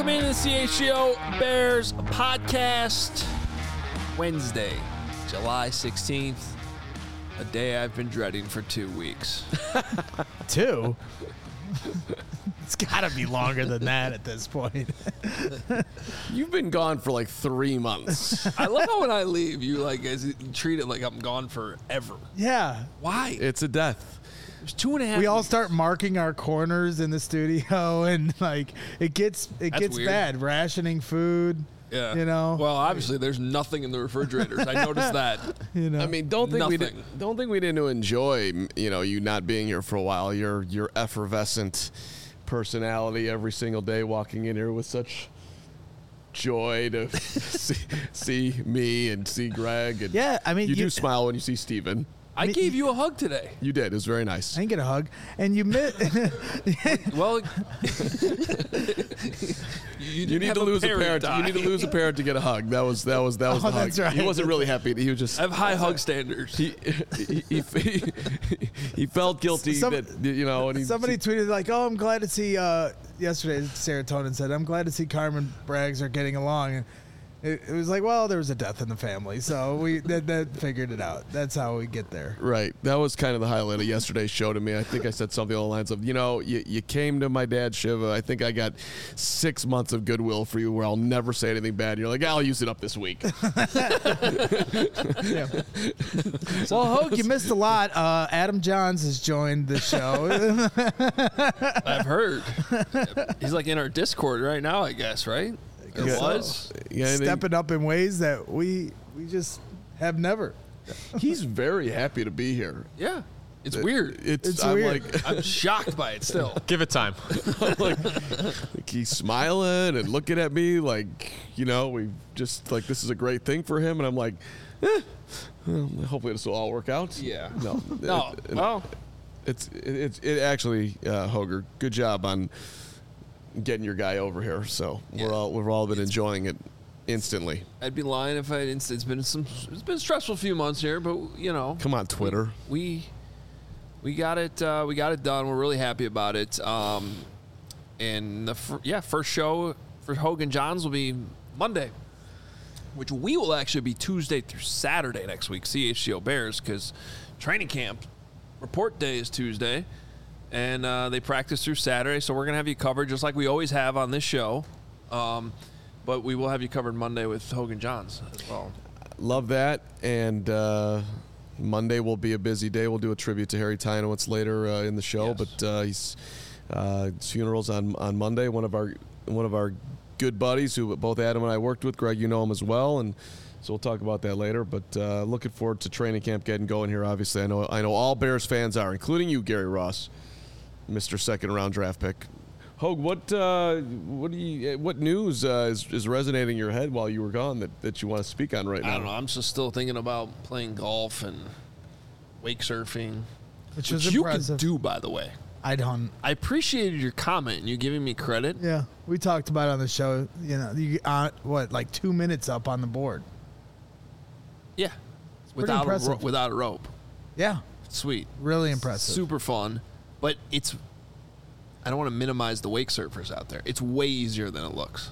Welcome into the CHGO Bears podcast. Wednesday, July 16th. A day I've been dreading for 2 weeks. 2? It's got to be longer than that at this point. You've been gone for like 3 months. I love how when I leave, you treat it like I'm gone forever. Yeah. Why? It's a death. It was 2.5 We all weeks. start marking our corners in the studio, and it gets weird. bad. Rationing food. Yeah. You know. Well, obviously, there's nothing in the refrigerators. I noticed that. You know. I mean, don't think Nothing. we didn't enjoy, you not being here for a while. Your effervescent personality every single day, walking in here with such joy to see me and see Greg. And Yeah, I mean, you do you- smile when you see Steven. I gave you a hug today. You did. It was very nice. I didn't get a hug, and you missed. Well, You need to lose a parent. You need to lose a parent to get a hug. That was the hug. that's right. He wasn't really happy. He was just. I have high hug standards. He felt guilty that and he, Somebody tweeted like, "Oh, I'm glad to see." Yesterday, Serotonin said, "I'm glad to see Carmen Braggs are getting along." And it was like, well, there was a death in the family, so we that figured it out. That's how we get there. Right. That was kind of the highlight of yesterday's show to me. I think I said something along the lines of, you came to my dad's shiva. I think I got 6 months of goodwill for you where I'll never say anything bad. You're like, I'll use it up this week. Yeah. Well, Hogue, you missed a lot. Adam Johns has joined the show. I've heard. He's like in our Discord right now, I guess, right? Or Yeah. was. Yeah, and Stepping up in ways that we just have never. he's very happy to be here. Yeah. It's weird. It's I'm weird. like, I'm shocked by it still. Give it time. like he's smiling and looking at me like, we just like this is a great thing for him, and I'm like, well, hopefully this will all work out. Yeah. No. No. Well, It actually, Hoger, good job on getting your guy over here. So Yeah. we've all been enjoying it instantly. I'd be lying if I didn't. It's been a stressful few months here, but Come on, Twitter. we got it. We got it done. We're really happy about it. And the first show for Hogan Johns will be Monday, which we will actually be Tuesday through Saturday next week. CHGO Bears, because training camp report day is Tuesday, and they practice through Saturday. So we're gonna have you covered just like we always have on this show. But we will have you covered Monday with Hogan Johns as well. Love that. And Monday will be a busy day. We'll do a tribute to Harry Tynowitz later in the show. Yes. But his funeral's on Monday. One of our good buddies who both Adam and I worked with. Greg, you know him as well, and so we'll talk about that later. But looking forward to training camp getting going here. Obviously, I know all Bears fans are, including you, Gary Ross, Mr. Second Round draft pick. Hogue, what news is resonating in your head while you were gone that you want to speak on right now? I don't know. I'm just still thinking about playing golf and wake surfing, Which was you impressive. can do, by the way. I don't. I appreciated your comment and you giving me credit. Yeah, we talked about it on the show. You like 2 minutes up on the board. Yeah, pretty impressive. without a rope. Yeah, Sweet, really impressive. super fun, but I don't want to minimize the wake surfers out there. It's way easier than it looks.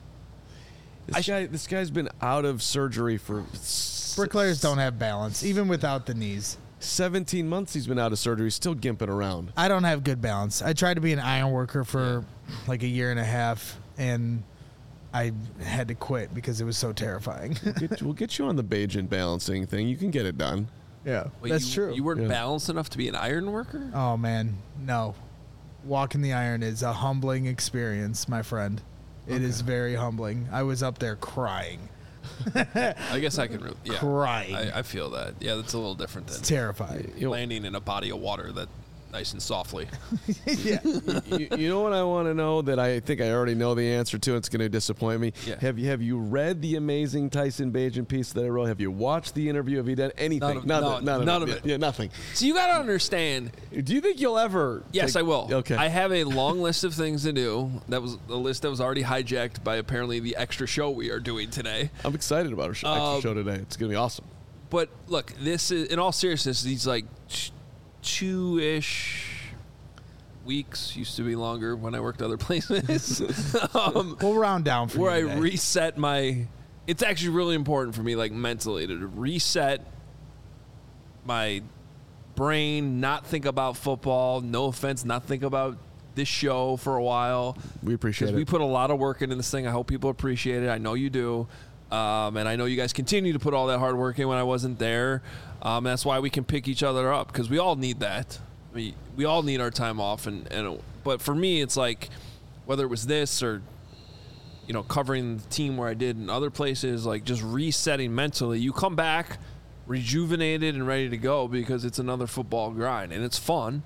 This guy's been out of surgery for Bricklayers don't have balance, even without the knees. 17 months. He's been out of surgery. He's still gimping around. I don't have good balance. I tried to be an iron worker for like a year and a half, and I had to quit because it was so terrifying. We'll get you on the Bajan balancing thing. You can get it done. Yeah, Wait, that's true. You weren't Yeah. balanced enough to be an iron worker? Oh man, no. Walking the iron is a humbling experience, my friend. It is very humbling. I was up there crying. I guess I can really, Crying. I feel that. Yeah, that's a little different than It's terrifying. landing in a body of water that nice and softly. Yeah. You know what I want to know that I think I already know the answer to? It's going to disappoint me. Yeah. Have you read the amazing Tyson Bagent piece that I wrote? Have you watched the interview? Have you done anything? None of it. Yeah, nothing. So you got to understand. Do you think you'll ever? Yes, I will. Okay. I have a long list of things to do. That was a list that was already hijacked by apparently the extra show we are doing today. I'm excited about our extra show today. It's going to be awesome. But look, this is, in all seriousness, these like two-ish weeks. Used to be longer when I worked other places. We'll round down for where you I today. reset my. It's actually really important for me, like mentally, to reset my brain, not think about football. No offense, not think about this show for a while. We appreciate it. We put a lot of work into this thing. I hope people appreciate it. I know you do. And I know you guys continue to put all that hard work in when I wasn't there. That's why we can pick each other up, because we all need that. We all need our time off. But for me, it's like, whether it was this or, covering the team where I did in other places, like just resetting mentally, you come back rejuvenated and ready to go because it's another football grind and it's fun.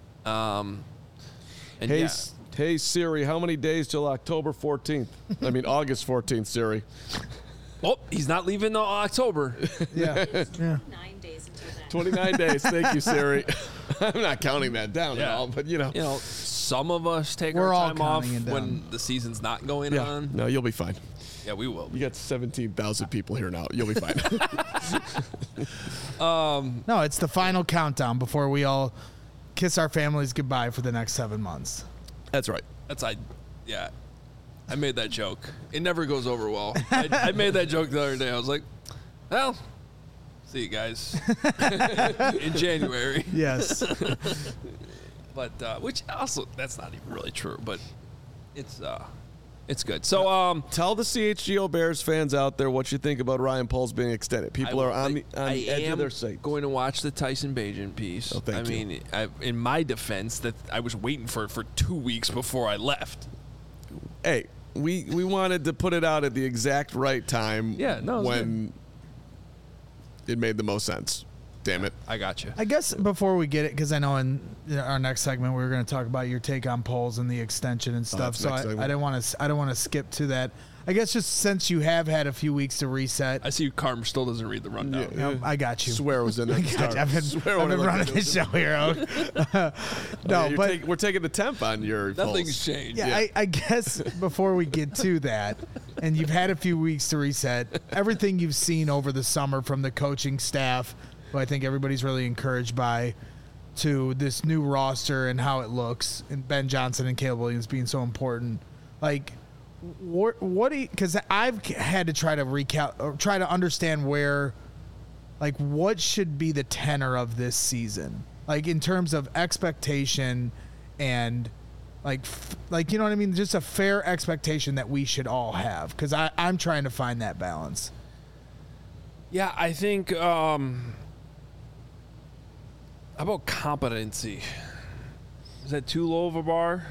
Hey Siri, how many days till October 14th? I mean August 14th, Siri. Oh, he's not leaving till October. Yeah. 9 days until then. 29 days. Thank you, Siri. I'm not counting that down at all, but Some of us take We're our all time off counting it down. when the season's not going yeah. on. No, you'll be fine. Yeah, we will. You got 17,000 people here now. You'll be fine. No, it's the final countdown before we all kiss our families goodbye for the next 7 months. That's right. Yeah. I made that joke. It never goes over well. I made that joke the other day. I was like, well, see you guys in January. Yes. But which also, that's not even really true, but it's good. So Tell the CHGO Bears fans out there what you think about Ryan Poles being extended. People are on the edge of their seat. Going to watch the Tyson Bagent piece. Oh, thank you. mean, in my defense, that I was waiting for 2 weeks before I left. Hey, we wanted to put it out at the exact right time. Yeah, no, it was when it made the most sense. Damn it. I got you. I guess before we get it, because I know in our next segment we're going to talk about your take on polls and the extension and stuff. that's So next I segment. don't want to skip to that. I guess just since you have had a few weeks to reset, I see Carm still doesn't read the rundown. I got you. Swear it was in there. I've been running this show here. No, but we're taking the temp on your Nothing's polls. changed. yeah, I guess before we get to that, and you've had a few weeks to reset, everything you've seen over the summer from the coaching staff, who I think everybody's really encouraged by, to this new roster and how it looks, and Ben Johnson and Caleb Williams being so important. Like, what do you, because I've had to try to understand where, like, what should be the tenor of this season, like in terms of expectation and like you know what I mean, just a fair expectation that we should all have, because I'm trying to find that balance. Yeah, I think how about competency? Is that too low of a bar?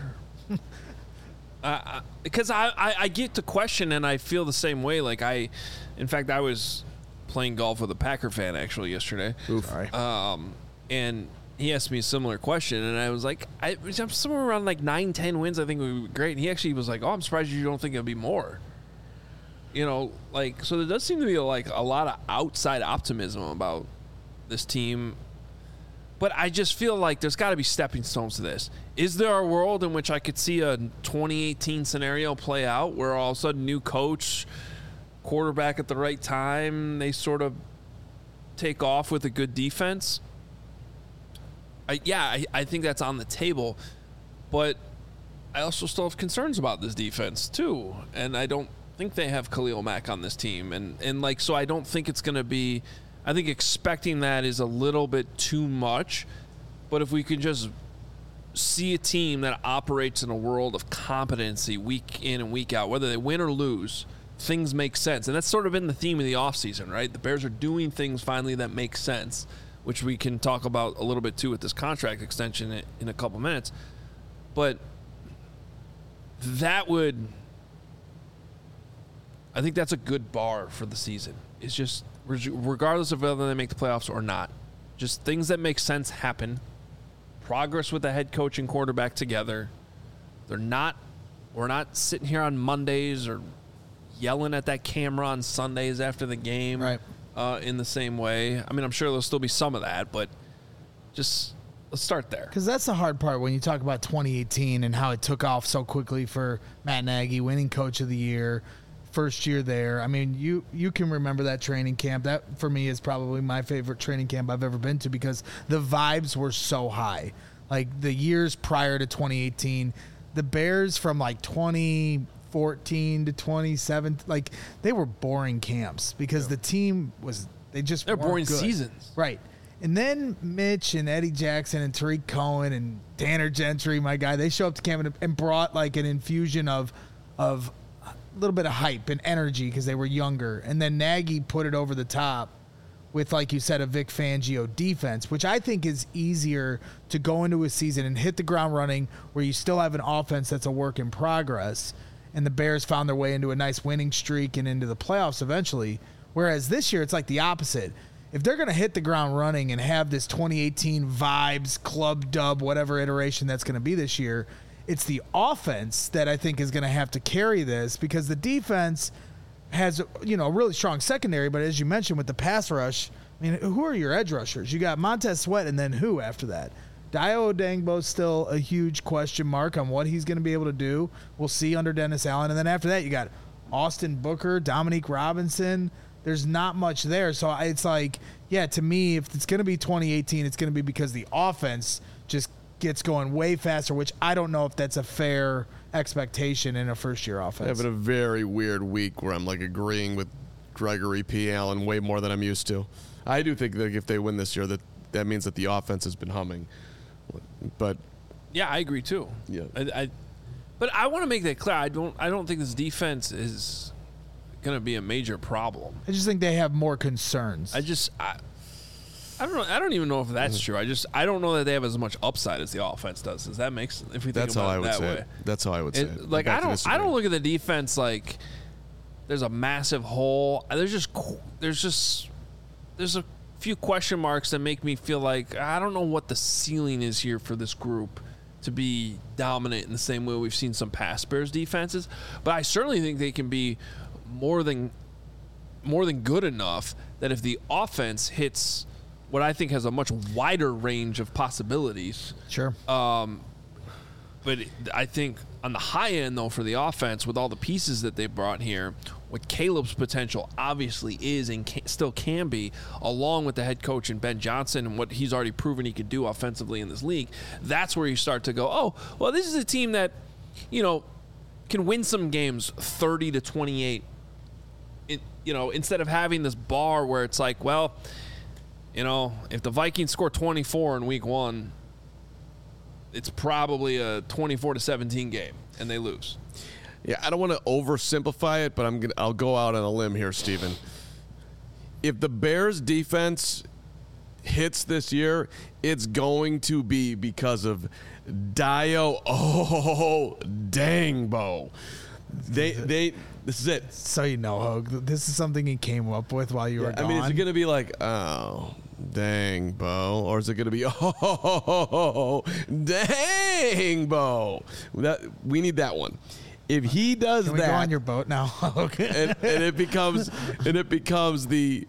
Because I get the question and I feel the same way. Like in fact, I was playing golf with a Packer fan actually yesterday. Sorry. And he asked me a similar question, and I was like, I'm somewhere around like 9-10 wins. I think would be great. And he actually was like, oh, I'm surprised you don't think it'll be more. So there does seem to be like a lot of outside optimism about this team. But I just feel like there's got to be stepping stones to this. Is there a world in which I could see a 2018 scenario play out where all of a sudden new coach, quarterback at the right time, they sort of take off with a good defense? I think that's on the table. But I also still have concerns about this defense too. And I don't think they have Khalil Mack on this team. And so I don't think it's going to be... I think expecting that is a little bit too much, but if we can just see a team that operates in a world of competency week in and week out, whether they win or lose, things make sense. And that's sort of been the theme of the offseason, right? The Bears are doing things finally that make sense, which we can talk about a little bit too with this contract extension in a couple minutes. But I think that's a good bar for the season. It's just, regardless of whether they make the playoffs or not, just things that make sense happen. Progress with the head coach and quarterback together. We're not sitting here on Mondays or yelling at that camera on Sundays after the game, Right. In the same way. I mean, I'm sure there'll still be some of that, but just let's start there. Because that's the hard part when you talk about 2018 and how it took off so quickly for Matt Nagy, winning Coach of the Year, first year there. I mean, you can remember that training camp. That, for me, is probably my favorite training camp I've ever been to because the vibes were so high. Like the years prior to 2018, the Bears from like 2014 to 2017, like they were boring camps because the team was they're boring good. seasons. Right. And then Mitch and Eddie Jackson and Tariq Cohen and Tanner Gentry, my guy, they show up to camp and brought like an infusion of a little bit of hype and energy because they were younger. And then Nagy put it over the top with, like you said, a Vic Fangio defense, which I think is easier to go into a season and hit the ground running where you still have an offense that's a work in progress. And the Bears found their way into a nice winning streak and into the playoffs eventually. Whereas this year, it's like the opposite. If they're going to hit the ground running and have this 2018 vibes, club dub, whatever iteration that's going to be this year, it's the offense that I think is going to have to carry this because the defense has, a really strong secondary. But as you mentioned with the pass rush, I mean, who are your edge rushers? You got Montez Sweat and then who after that? Dio Odangbo's still a huge question mark on what he's going to be able to do. We'll see under Dennis Allen. And then after that, you got Austin Booker, Dominique Robinson. There's not much there. So it's like, yeah, to me, if it's going to be 2018, it's going to be because the offense just gets going way faster, which I don't know if that's a fair expectation in a first-year offense. Having a very weird week where I'm like agreeing with Gregory P. Allen way more than I'm used to. I do think that if they win this year, that means that the offense has been humming. But yeah, I agree too. Yeah, but I want to make that clear. I don't think this defense is going to be a major problem. I just think they have more concerns. I don't know. I don't even know if that's true. I don't know that they have as much upside as the offense does. Does that make sense? If we think that's how about I it would that say way. it. That's how I would say it. Like I don't look at the defense like there's a massive hole. There's a few question marks that make me feel like I don't know what the ceiling is here for this group to be dominant in the same way we've seen some past Bears defenses. But I certainly think they can be more than good enough that if the offense hits what I think has a much wider range of possibilities. Sure. But I think on the high end, though, for the offense, with all the pieces that they brought here, what Caleb's potential obviously is and still can be, along with the head coach and Ben Johnson and what he's already proven he could do offensively in this league, that's where you start to go, oh, well, this is a team that, can win some games 30-28. Instead of having this bar where it's like, well, if the Vikings score 24 in week 1, it's probably a 24-17 game, and they lose. Yeah, I don't want to oversimplify it, but I'll go out on a limb here, Steven. If the Bears defense hits this year, it's going to be because of Dio Odangbo. This is it. So Hogue, this is something he came up with while you were gone. I mean, is it going to be like, oh, dang, Bo? Or is it going to be, oh, dang, Bo? We need that one. If he does Can we go on your boat now? Okay. and it becomes the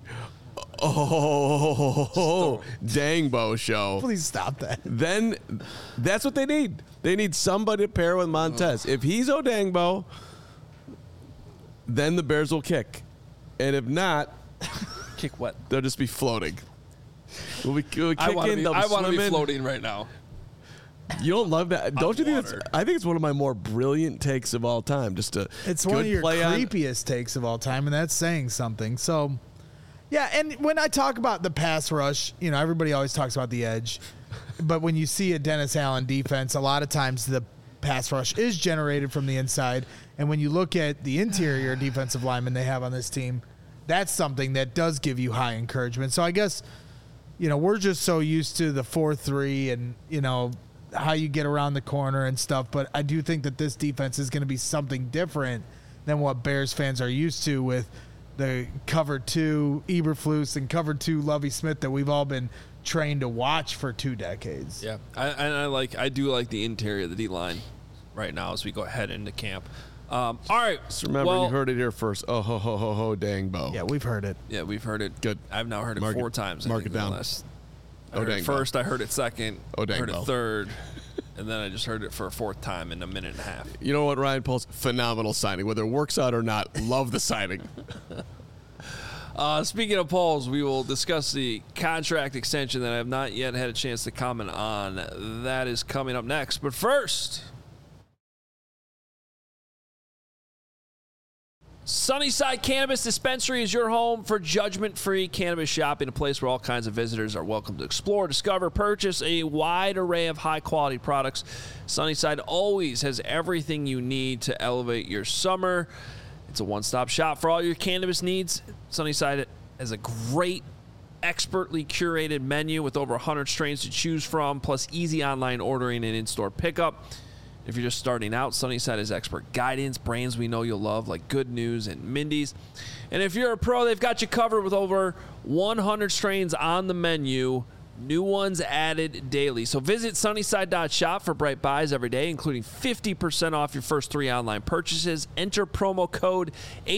dang Bo show. Please stop that. Then that's what they need. They need somebody to pair with Montez. If he's Odangbo, then the Bears will kick. And if not, kick what? They'll just be floating. We'll be kicking. I want to be swimming. floating right now. You don't love that, don't you think? I think it's one of my more brilliant takes of all time. It's one of your creepiest takes of all time, and that's saying something. So, yeah. And when I talk about the pass rush, everybody always talks about the edge, but when you see a Dennis Allen defense, a lot of times the pass rush is generated from the inside. And when you look at the interior defensive linemen they have on this team, that's something that does give you high encouragement. So I guess, we're just so used to the 4-3 and, how you get around the corner and stuff. But I do think that this defense is going to be something different than what Bears fans are used to with the cover 2 Eberflus and cover 2 Lovie Smith that we've all been trained to watch for 2 decades. Yeah, I do like the interior of the D-line right now as we go ahead into camp. All right. Just remember, you heard it here first. Oh, ho, dang, Bo. Yeah, we've heard it. Yeah, we've heard it. Good. I've now heard it 4 times. Mark it down. I heard it first, I heard it second, I heard it third, and then I just heard it for a 4th time in a minute and a half. You know what, Ryan Poles? Phenomenal signing. Whether it works out or not, love the signing. Speaking of polls, we will discuss the contract extension that I have not yet had a chance to comment on. That is coming up next. But first, Sunnyside Cannabis Dispensary is your home for judgment-free cannabis shopping, a place where all kinds of visitors are welcome to explore, discover, purchase a wide array of high-quality products. Sunnyside always has everything you need to elevate your summer. It's a one-stop shop for all your cannabis needs. Sunnyside has a great, expertly curated menu with over 100 strains to choose from, plus easy online ordering and in-store pickup. If you're just starting out, Sunnyside has expert guidance, brands we know you'll love like Good News and Mindy's. And if you're a pro, they've got you covered with over 100 strains on the menu. New ones added daily. So visit sunnyside.shop for bright buys every day, including 50% off your first 3 online purchases. Enter promo code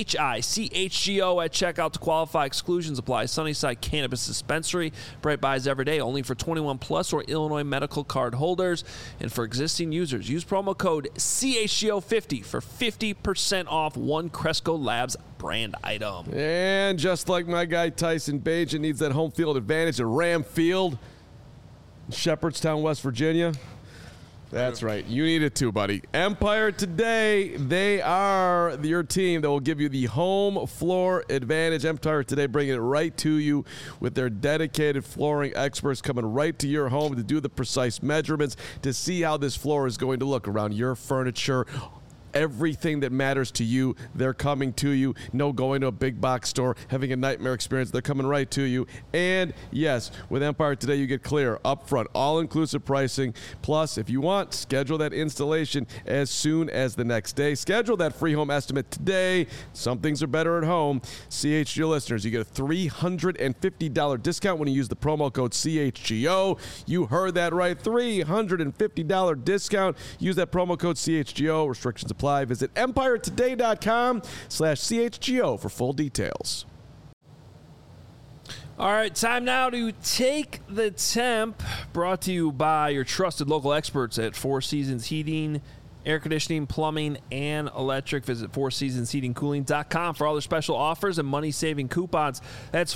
HICHGO at checkout to qualify. Exclusions apply. Sunnyside Cannabis Dispensary. Bright buys every day, only for 21 plus or Illinois medical card holders. And for existing users, use promo code CHGO50 for 50% off one Cresco Labs brand item. And just like my guy Tyson Bagent needs that home field advantage at Ram Field, Shepherdstown, West Virginia. That's right. You need it too, buddy. Empire Today, they are your team that will give you the home floor advantage. Empire Today bringing it right to you with their dedicated flooring experts coming right to your home to do the precise measurements to see how this floor is going to look around your furniture. Everything that matters to you, they're coming to you. No going to a big box store, having a nightmare experience. They're coming right to you. And yes, with Empire Today, you get clear, upfront, all-inclusive pricing. Plus, if you want, schedule that installation as soon as the next day. Schedule that free home estimate today. Some things are better at home. CHGO listeners, you get a $350 discount when you use the promo code CHGO. You heard that right, $350 discount. Use that promo code CHGO. Restrictions apply. Visit EmpireToday.com/CHGO for full details. All right, time now to take the temp, brought to you by your trusted local experts at Four Seasons Heating, Air Conditioning, Plumbing, and Electric. Visit FourSeasonsHeatingCooling.com for all their special offers and money-saving coupons. That's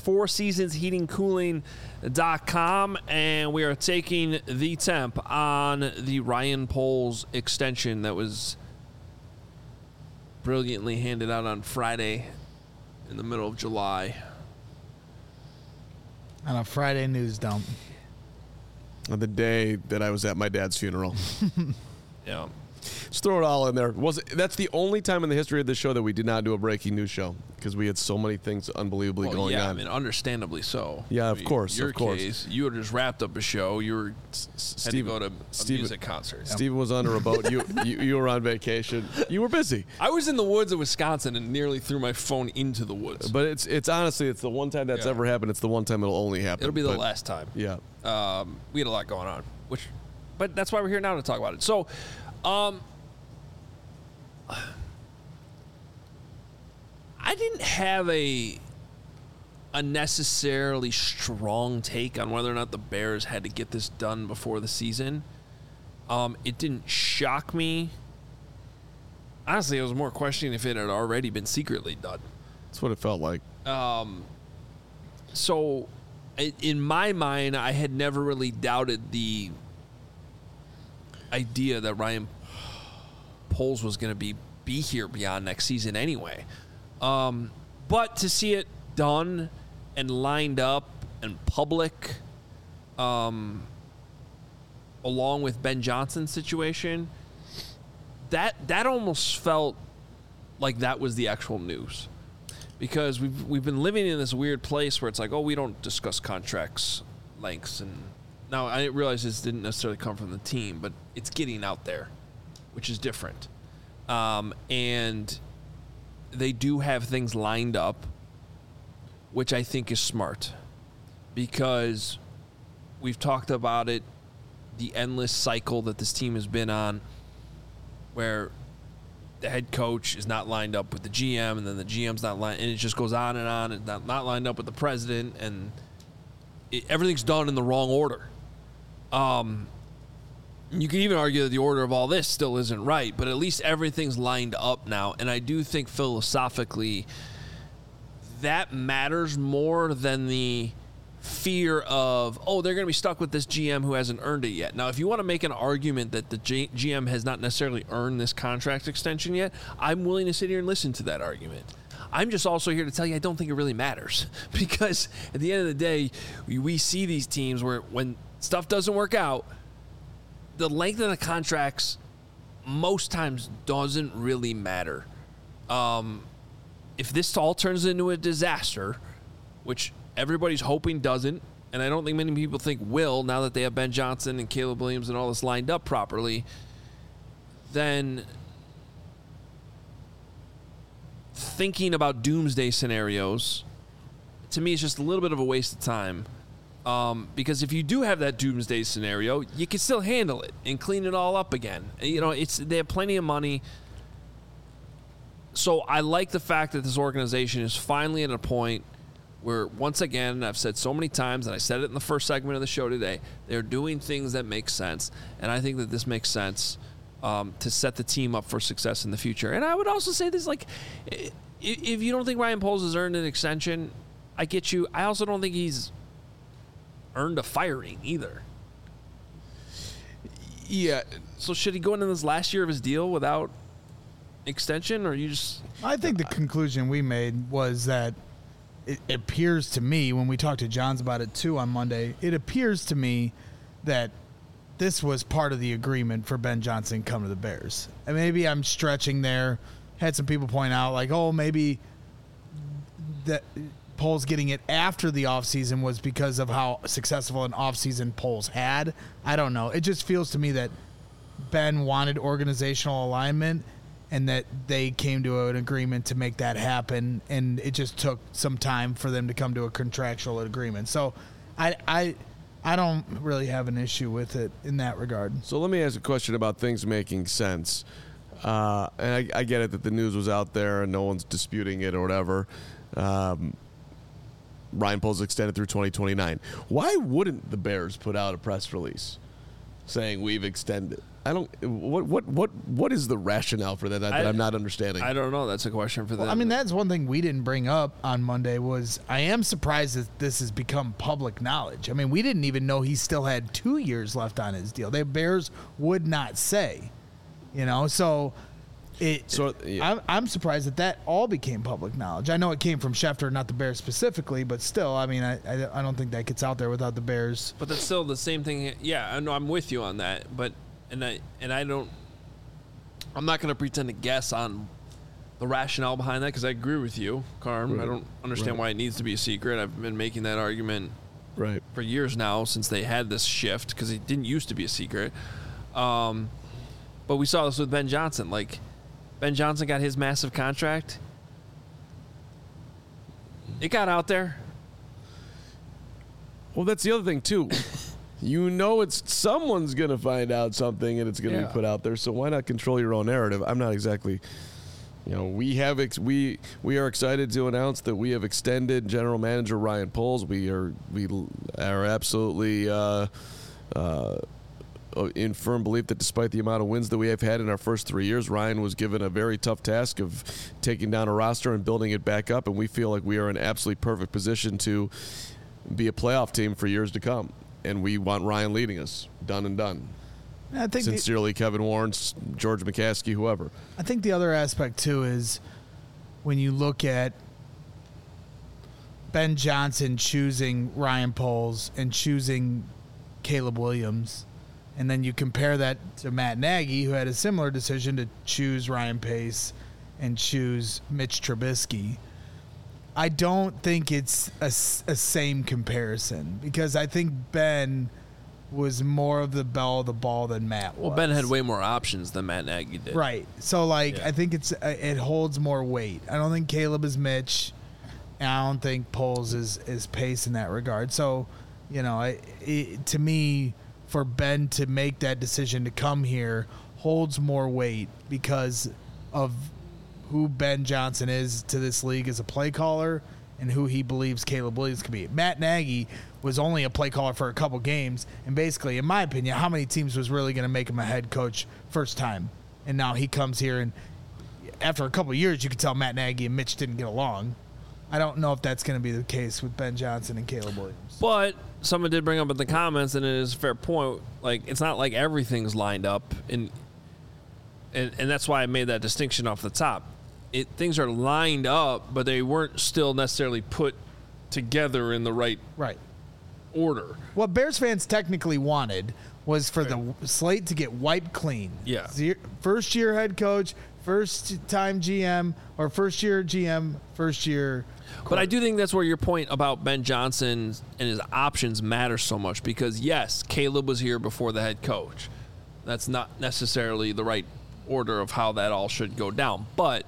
FourSeasonsHeatingCooling.com, and we are taking the temp on the Ryan Poles extension that was brilliantly handed out on Friday in the middle of July. On a Friday news dump. On the day that I was at my dad's funeral. Yeah. Just throw it all in there. That's the only time in the history of this show that we did not do a breaking news show because we had so many things unbelievably going on. I mean, understandably so. Yeah, of course. Your case, you had just wrapped up a show. You were had to go to a music concert. Steven was under a boat. You were on vacation. You were busy. I was in the woods of Wisconsin and nearly threw my phone into the woods. But it's honestly, it's the one time that's ever happened. It's the one time it'll only happen. It'll be the last time. Yeah. We had a lot going on, but that's why we're here now to talk about it. So, I didn't have a necessarily strong take on whether or not the Bears had to get this done before the season. It didn't shock me. Honestly, I was more questioning if it had already been secretly done. That's what it felt like. So, in my mind, I had never really doubted the idea that Ryan Poles was going to be here beyond next season anyway. But to see it done and lined up and public, along with Ben Johnson's situation, that almost felt like that was the actual news. Because we've been living in this weird place where it's like, oh, we don't discuss contracts lengths. And now I realize this didn't necessarily come from the team, but it's getting out there, which is different. And they do have things lined up, which I think is smart. Because we've talked about it, the endless cycle that this team has been on, where the head coach is not lined up with the GM, and then the GM's not lined, and it just goes on and on, and not lined up with the president, and everything's done in the wrong order. You can even argue that the order of all this still isn't right, but at least everything's lined up now, and I do think philosophically that matters more than the fear of, they're going to be stuck with this GM who hasn't earned it yet. Now, if you want to make an argument that the GM has not necessarily earned this contract extension yet, I'm willing to sit here and listen to that argument. I'm just also here to tell you I don't think it really matters, because at the end of the day, we see these teams where when stuff doesn't work out, the length of the contracts most times doesn't really matter. If this all turns into a disaster, which everybody's hoping doesn't, and I don't think many people think will, now that they have Ben Johnson and Caleb Williams and all this lined up properly, then thinking about doomsday scenarios, to me, is just a little bit of a waste of time. Because if you do have that doomsday scenario, you can still handle it and clean it all up again. You know, they have plenty of money. So I like the fact that this organization is finally at a point where, once again, I've said so many times, and I said it in the first segment of the show today, they're doing things that make sense. And I think that this makes sense to set the team up for success in the future. And I would also say this, like, if you don't think Ryan Poles has earned an extension, I get you. I also don't think he's earned a firing either. Yeah. So should he go into this last year of his deal without extension, or you just... I think the conclusion we made was that it appears to me, when we talked to Johns about it too on Monday, it appears to me that this was part of the agreement for Ben Johnson to come to the Bears. And maybe I'm stretching there. Had some people point out, like, maybe that Poles getting it after the offseason was because of how successful an offseason Poles had. I don't know. It just feels to me that Ben wanted organizational alignment, and that they came to an agreement to make that happen, and it just took some time for them to come to a contractual agreement. So I don't really have an issue with it in that regard. So let me ask a question about things making sense. And I get it that the news was out there and no one's disputing it or whatever. Ryan Poles extended through 2029. Why wouldn't the Bears put out a press release saying we've extended? I don't. What is the rationale for that I'm not understanding? I don't know. That's a question for them. Well, I mean, that's one thing we didn't bring up on Monday was I am surprised that this has become public knowledge. I mean, we didn't even know he still had 2 years left on his deal. The Bears would not say, so yeah. I'm surprised that all became public knowledge. I know it came from Schefter, not the Bears specifically, but still, I mean, I don't think that gets out there without the Bears. But that's still the same thing. Yeah, I know, I'm with you on that, but I'm not going to pretend to guess on the rationale behind that, because I agree with you, Carm. Right. I don't understand why it needs to be a secret. I've been making that argument for years now, since they had this shift, because it didn't used to be a secret. But we saw this with Ben Johnson. Like, Ben Johnson got his massive contract. It got out there. Well, that's the other thing too. It's someone's going to find out something and it's going to be put out there. So why not control your own narrative? I'm not exactly, we are excited to announce that we have extended General Manager Ryan Poles. We are absolutely in firm belief that despite the amount of wins that we have had in our first 3 years, Ryan was given a very tough task of taking down a roster and building it back up, and we feel like we are in absolutely perfect position to be a playoff team for years to come. And we want Ryan leading us. Done and done. I think Sincerely, Kevin Warren, George McCaskey, whoever. I think the other aspect, too, is when you look at Ben Johnson choosing Ryan Poles and choosing Caleb Williams, and then you compare that to Matt Nagy, who had a similar decision to choose Ryan Pace and choose Mitch Trubisky. I don't think it's a same comparison, because I think Ben was more of the belle of the ball than Matt was. Well, Ben had way more options than Matt Nagy did. Right. So, I think it holds more weight. I don't think Caleb is Mitch, and I don't think Poles is Pace in that regard. So, to me, for Ben to make that decision to come here holds more weight because of who Ben Johnson is to this league as a play caller and who he believes Caleb Williams could be. Matt Nagy was only a play caller for a couple games, and basically, in my opinion, how many teams was really going to make him a head coach first time? And now he comes here, and after a couple years, you could tell Matt Nagy and Mitch didn't get along. I don't know if that's going to be the case with Ben Johnson and Caleb Williams. But someone did bring up in the comments, and it is a fair point. Like, it's not like everything's lined up, and that's why I made that distinction off the top. Things are lined up, but they weren't still necessarily put together in the right order. What Bears fans technically wanted was for the slate to get wiped clean. Yeah. First-year head coach, first-time GM, or first-year GM, first-year coach. But I do think that's where your point about Ben Johnson and his options matters so much because, yes, Caleb was here before the head coach. That's not necessarily the right order of how that all should go down. But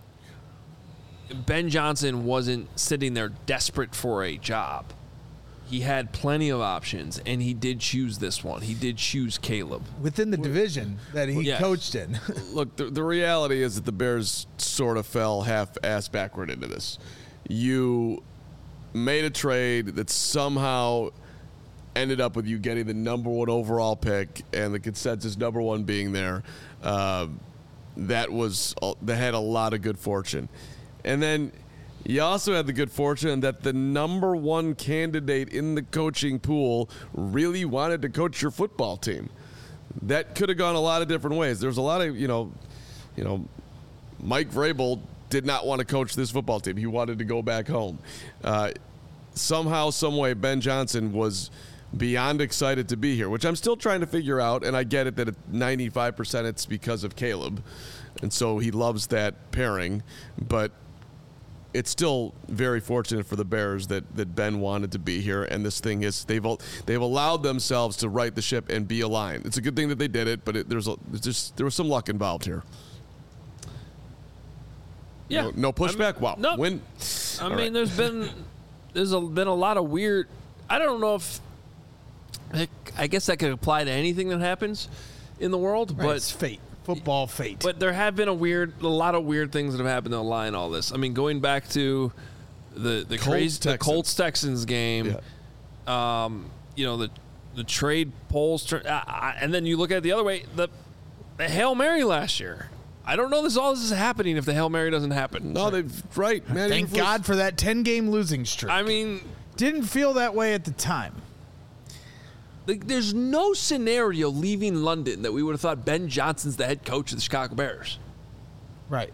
Ben Johnson wasn't sitting there desperate for a job. He had plenty of options, and he did choose this one. He did choose Caleb. Within the division that he coached in. Look, the reality is that the Bears sort of fell half-ass backward into this. You made a trade that somehow ended up with you getting the number 1 overall pick and the consensus number 1 being there. That had a lot of good fortune. And then you also had the good fortune that the number 1 candidate in the coaching pool really wanted to coach your football team. That could have gone a lot of different ways. There's a lot of, Mike Vrabel did not want to coach this football team. He wanted to go back home. Somehow, some way, Ben Johnson was beyond excited to be here, which I'm still trying to figure out, and I get it that at 95% it's because of Caleb, and so he loves that pairing, but it's still very fortunate for the Bears that Ben wanted to be here, and this thing is they've allowed themselves to right the ship and be aligned. It's a good thing that they did it, but there was some luck involved here. Yeah, no pushback. Wow, no. Win. I mean, there's been a lot of weird. I don't know if I guess that could apply to anything that happens in the world, but it's fate. Football fate. But there have been a lot of weird things that have happened to align all this. I mean, going back to the Colts Texans game, the trade polls, and then you look at it the other way, the Hail Mary last year. I don't know all this is happening if the Hail Mary doesn't happen. No, man. Thank God for that 10-game losing streak. I mean, didn't feel that way at the time. There's no scenario leaving London that we would have thought Ben Johnson's the head coach of the Chicago Bears. Right.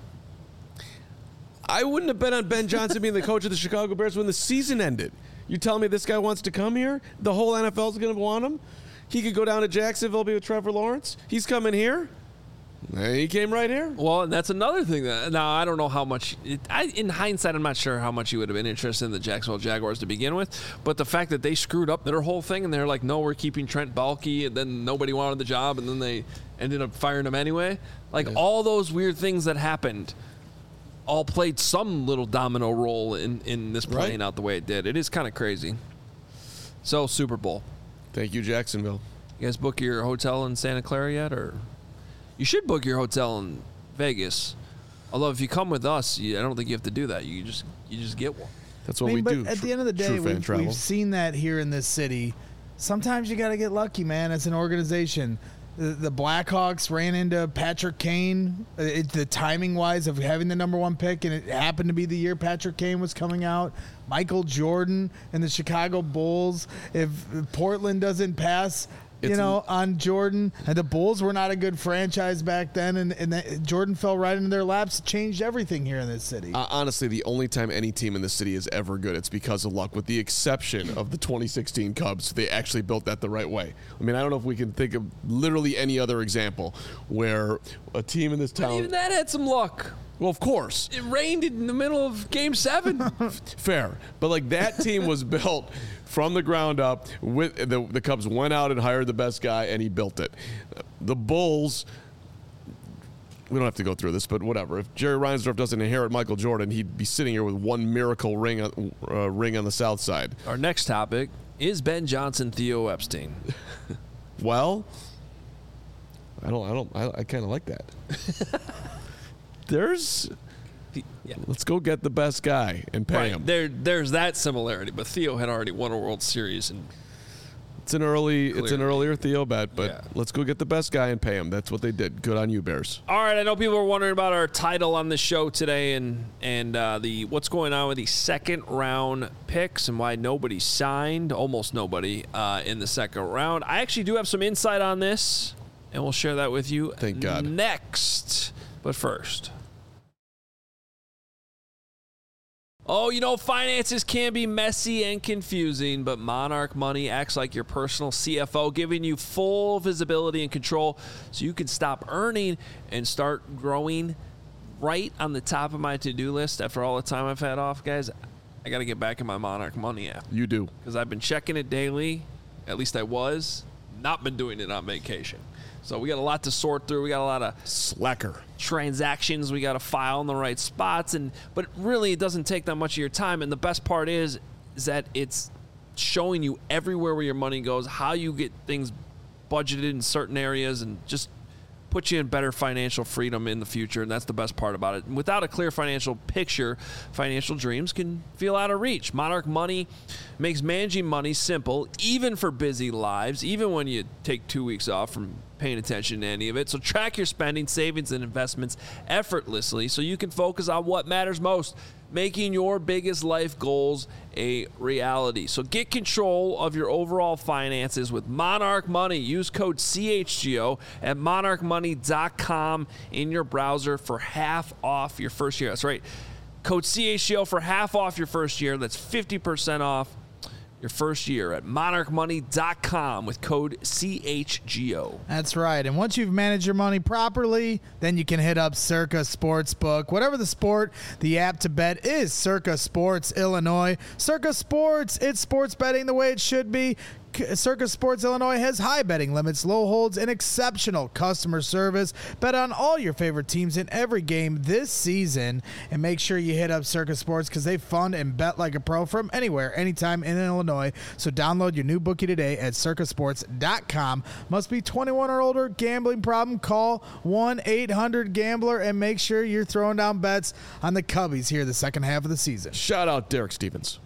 I wouldn't have bet on Ben Johnson being the coach of the Chicago Bears when the season ended. You telling me this guy wants to come here? The whole NFL is going to want him? He could go down to Jacksonville, be with Trevor Lawrence? He's coming here? And he came right here. Well, and that's another thing. Now, I don't know how much. In hindsight, I'm not sure how much he would have been interested in the Jacksonville Jaguars to begin with. But the fact that they screwed up their whole thing and they're like, no, we're keeping Trent Baalke, and then nobody wanted the job, and then they ended up firing him anyway. All those weird things that happened all played some little domino role in this playing out the way it did. It is kind of crazy. So, Super Bowl. Thank you, Jacksonville. You guys book your hotel in Santa Clara yet, or? You should book your hotel in Vegas. Although if you come with us, I don't think you have to do that. You just get one. That's what we do. But at the end of the day, we've seen that here in this city. Sometimes you got to get lucky, man. As an organization, the Blackhawks ran into Patrick Kane. The timing wise of having the number 1 pick, and it happened to be the year Patrick Kane was coming out. Michael Jordan and the Chicago Bulls. If Portland doesn't pass on Jordan, and the Bulls were not a good franchise back then, and Jordan fell right into their laps. It changed everything here in this city. Honestly, the only time any team in the city is ever good, it's because of luck, with the exception of the 2016 Cubs. They actually built that the right way. I mean, I don't know if we can think of literally any other example where a team in this town... But even that had some luck. Well, of course. It rained in the middle of Game 7. Fair. But, that team was built from the ground up. With the Cubs went out and hired the best guy, and he built it. The Bulls, we don't have to go through this, but whatever. If Jerry Reinsdorf doesn't inherit Michael Jordan, he'd be sitting here with one miracle ring on the South Side. Our next topic is Ben Johnson, Theo Epstein. Well, I kind of like that. Let's go get the best guy and pay him. There's that similarity, but Theo had already won a World Series, and It's an earlier Theo bet, but Yeah. let's go get the best guy and pay him. That's what they did. Good on you, Bears. All right, I know people are wondering about our title on the show today and the what's going on with the second round picks and why nobody signed, almost nobody in the second round. I actually do have some insight on this, and we'll share that with you. Thank God. Next, but first. Oh, finances can be messy and confusing, but Monarch Money acts like your personal CFO, giving you full visibility and control so you can stop earning and start growing. Right on the top of my to-do list after all the time I've had off, guys, I got to get back in my Monarch Money app. You do. Because I've been checking it daily. At least I was. Not been doing it on vacation. So we got a lot to sort through. We got a lot of Slacker. transactions we got to file in the right spots, but really it doesn't take that much of your time. And the best part is that it's showing you everywhere where your money goes, how you get things budgeted in certain areas, and just put you in better financial freedom in the future. And that's the best part about it. Without a clear financial picture, financial dreams can feel out of reach. Monarch Money makes managing money simple, even for busy lives, even when you take 2 weeks off from paying attention to any of it. So track your spending, savings, and investments effortlessly so you can focus on what matters most, making your biggest life goals a reality. So get control of your overall finances with Monarch Money. Use code CHGO at monarchmoney.com in your browser for half off your first year. That's right. Code CHGO for half off your first year. That's 50% off your first year at monarchmoney.com with code CHGO. That's right. And once you've managed your money properly, then you can hit up Circa Sportsbook. Whatever the sport, the app to bet is Circa Sports Illinois. Circa Sports, it's sports betting the way it should be. Circa Sports Illinois has high betting limits, low holds, and exceptional customer service. Bet on all your favorite teams in every game this season. And make sure you hit up Circa Sports because they fund and bet like a pro from anywhere, anytime in Illinois. So download your new bookie today at circasports.com. Must be 21 or older. Gambling problem? Call 1-800-GAMBLER and make sure you're throwing down bets on the Cubbies here the second half of the season. Shout out Derek Stevens.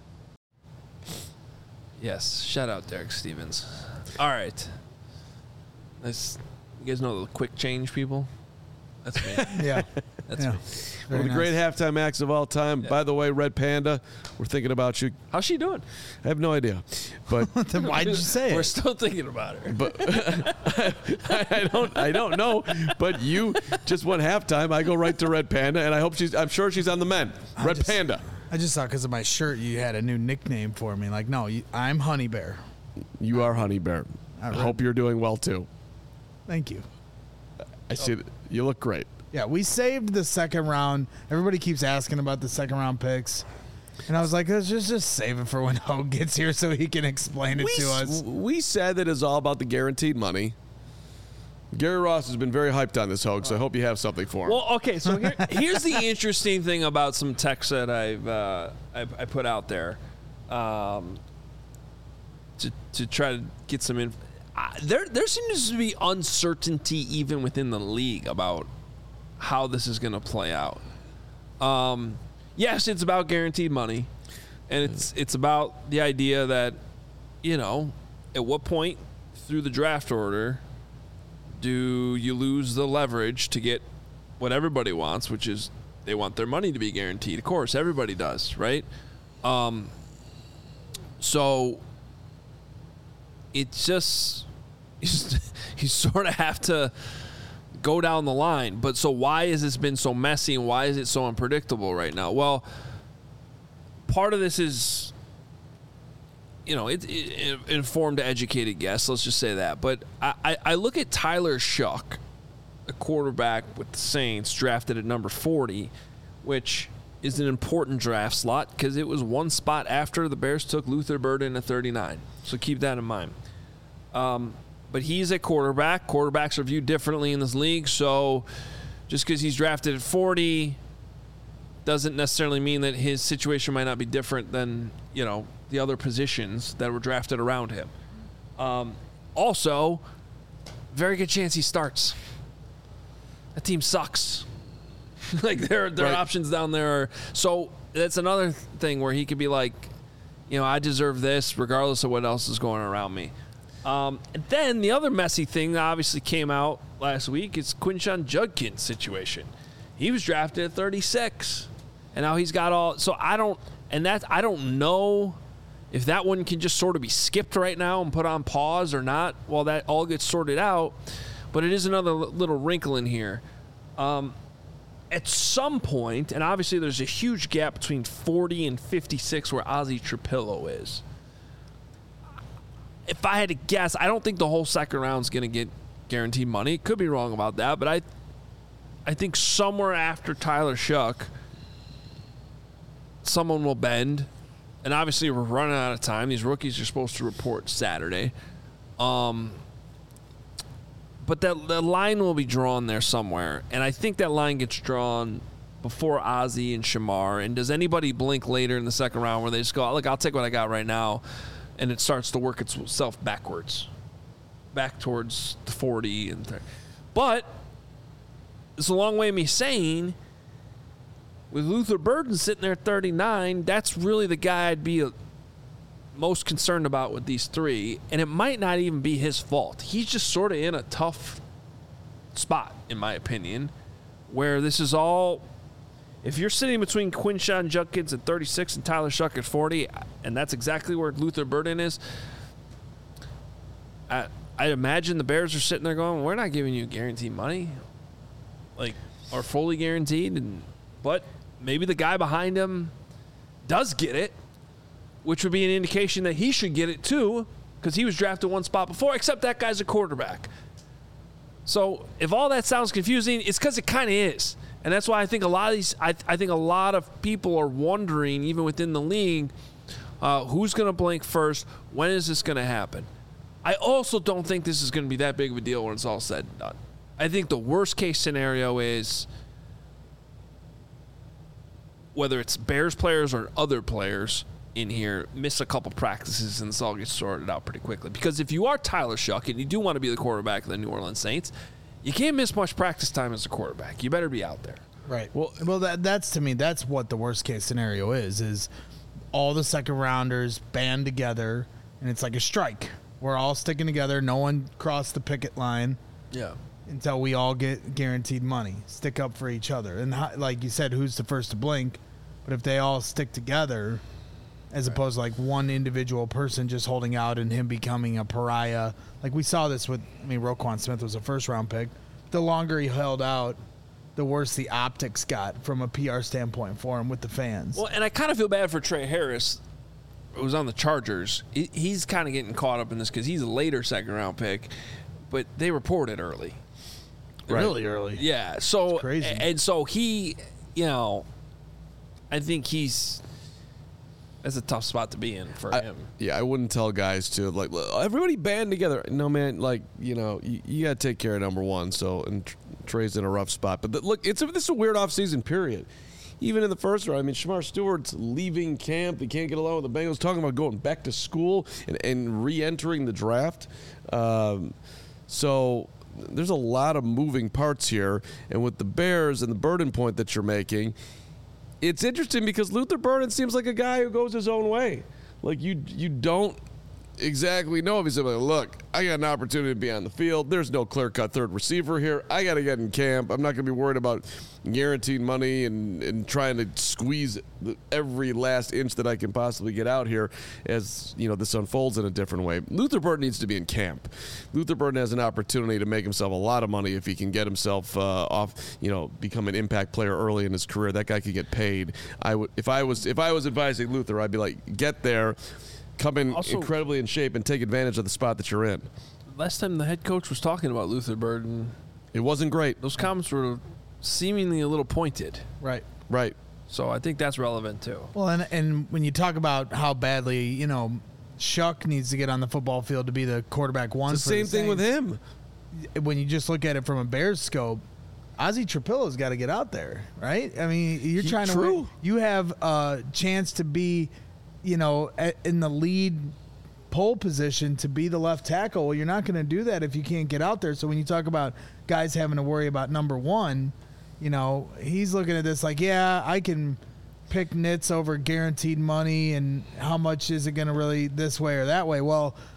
Yes, shout out Derek Stevens. All right. You guys know the quick change people? That's me. Yeah. That's Yeah. me. One of the great halftime acts of all time. Yeah. By the way, Red Panda, we're thinking about you. How's she doing? I have no idea. But Then why did you say We're it? still thinking about her. but I don't know. But you just went halftime. I go right to Red Panda, and I'm sure she's on the men. Red Panda. I just thought because of my shirt you had a new nickname for me. Like, no, I'm Honey Bear. You are Honey Bear. I hope you're doing well too. Thank you. I see that you look great. Yeah, we saved the second round. Everybody keeps asking about the second round picks. And I was like, let's just save it for when Hogue gets here so he can explain it to us. We said that it's all about the guaranteed money. Gary Ross has been very hyped on this, Hogue, so I hope you have something for him. Well, okay, so here's the interesting thing about some texts that I put out there to try to get some info. There seems to be uncertainty even within the league about how this is going to play out. Yes, it's about guaranteed money, and it's about the idea that, at what point through the draft order do you lose the leverage to get what everybody wants, which is they want their money to be guaranteed. Of course, everybody does, right? So it's just you sort of have to go down the line. But so why has this been so messy and why is it so unpredictable right now? Well, part of this is, it informed, educated guess. Let's just say that. But I look at Tyler Shuck, a quarterback with the Saints, drafted at number 40, which is an important draft slot because it was one spot after the Bears took Luther Burden at 39. So keep that in mind. But he's a quarterback. Quarterbacks are viewed differently in this league. So just because he's drafted at 40 doesn't necessarily mean that his situation might not be different than, the other positions that were drafted around him. Also, very good chance he starts. That team sucks. Like their Right. options down there are, so that's another thing where he could be like, I deserve this regardless of what else is going around me. And then the other messy thing that obviously came out last week is Quinshon Judkins' situation. He was drafted at 36, and now he's got all. So I don't know if that one can just sort of be skipped right now and put on pause or not while that all gets sorted out. But it is another little wrinkle in here. At some point, and obviously there's a huge gap between 40 and 56 where Ozzy Trapillo is. If I had to guess, I don't think the whole second round is going to get guaranteed money. Could be wrong about that, but I think somewhere after Tyler Shuck, someone will bend. And obviously we're running out of time. These rookies are supposed to report Saturday. But the line will be drawn there somewhere. And I think that line gets drawn before Ozzy and Shamar. And does anybody blink later in the second round where they just go, look, I'll take what I got right now, and it starts to work itself backwards, back towards the 40 and 30. But it's a long way of me saying, with Luther Burden sitting there at 39, that's really the guy I'd be most concerned about with these three. And it might not even be his fault. He's just sort of in a tough spot, in my opinion, where this is all. If you're sitting between Quinshon Judkins at 36 and Tyler Shuck at 40, and that's exactly where Luther Burden is, I imagine the Bears are sitting there going, we're not giving you guaranteed money, or fully guaranteed. But maybe the guy behind him does get it, which would be an indication that he should get it too, because he was drafted one spot before, except that guy's a quarterback. So if all that sounds confusing, it's because it kind of is. And that's why I think a lot of these, I think a lot of people are wondering, even within the league, who's going to blink first? When is this going to happen? I also don't think this is going to be that big of a deal when it's all said and done. I think the worst case scenario is, whether it's Bears players or other players in here, miss a couple practices and this all gets sorted out pretty quickly. Because if you are Tyler Shuck and you do want to be the quarterback of the New Orleans Saints, you can't miss much practice time as a quarterback. You better be out there. Right. Well, that's to me, that's what the worst case scenario is all the second rounders band together and it's like a strike. We're all sticking together. No one crossed the picket line. Yeah. Until we all get guaranteed money. Stick up for each other. And like you said, who's the first to blink? But if they all stick together, as opposed to like one individual person just holding out and him becoming a pariah. Like we saw this with, Roquan Smith was a first-round pick. The longer he held out, the worse the optics got from a PR standpoint for him with the fans. Well, and I kind of feel bad for Trey Harris, who was on the Chargers. He's kind of getting caught up in this because he's a later second-round pick, but they reported early. Really early. Yeah. So it's crazy. And so he, I think that's a tough spot to be in for him. Yeah, I wouldn't tell guys to everybody band together. No, man, you got to take care of number one. So, and Trey's in a rough spot. But look, this is a weird offseason period. Even in the first round, Shamar Stewart's leaving camp. They can't get along with the Bengals. Talking about going back to school and re-entering the draft. So there's a lot of moving parts here. And with the Bears and the Burden point that you're making, it's interesting because Luther Burden seems like a guy who goes his own way. Like you don't exactly know if he's like, look, I got an opportunity to be on the field. There's no clear-cut third receiver here. I got to get in camp. I'm not going to be worried about guaranteed money and trying to squeeze every last inch that I can possibly get out here as, this unfolds in a different way. Luther Burden needs to be in camp. Luther Burden has an opportunity to make himself a lot of money if he can get himself off, become an impact player early in his career. That guy could get paid. If I was advising Luther, I'd be like, get there, come in also incredibly in shape, and take advantage of the spot that you're in. Last time the head coach was talking about Luther Burden, it wasn't great. Those comments were seemingly a little pointed. Right. So I think that's relevant too. Well, and when you talk about how badly, Shuck needs to get on the football field to be the quarterback one. It's the same thing with him. When you just look at it from a Bears scope, Ozzy Trapillo's got to get out there, right? You're trying to win. You have a chance to be, in the lead pole position to be the left tackle. Well, you're not going to do that if you can't get out there. So when you talk about guys having to worry about number one, he's looking at this like, yeah, I can pick nits over guaranteed money and how much is it going to really this way or that way. Well,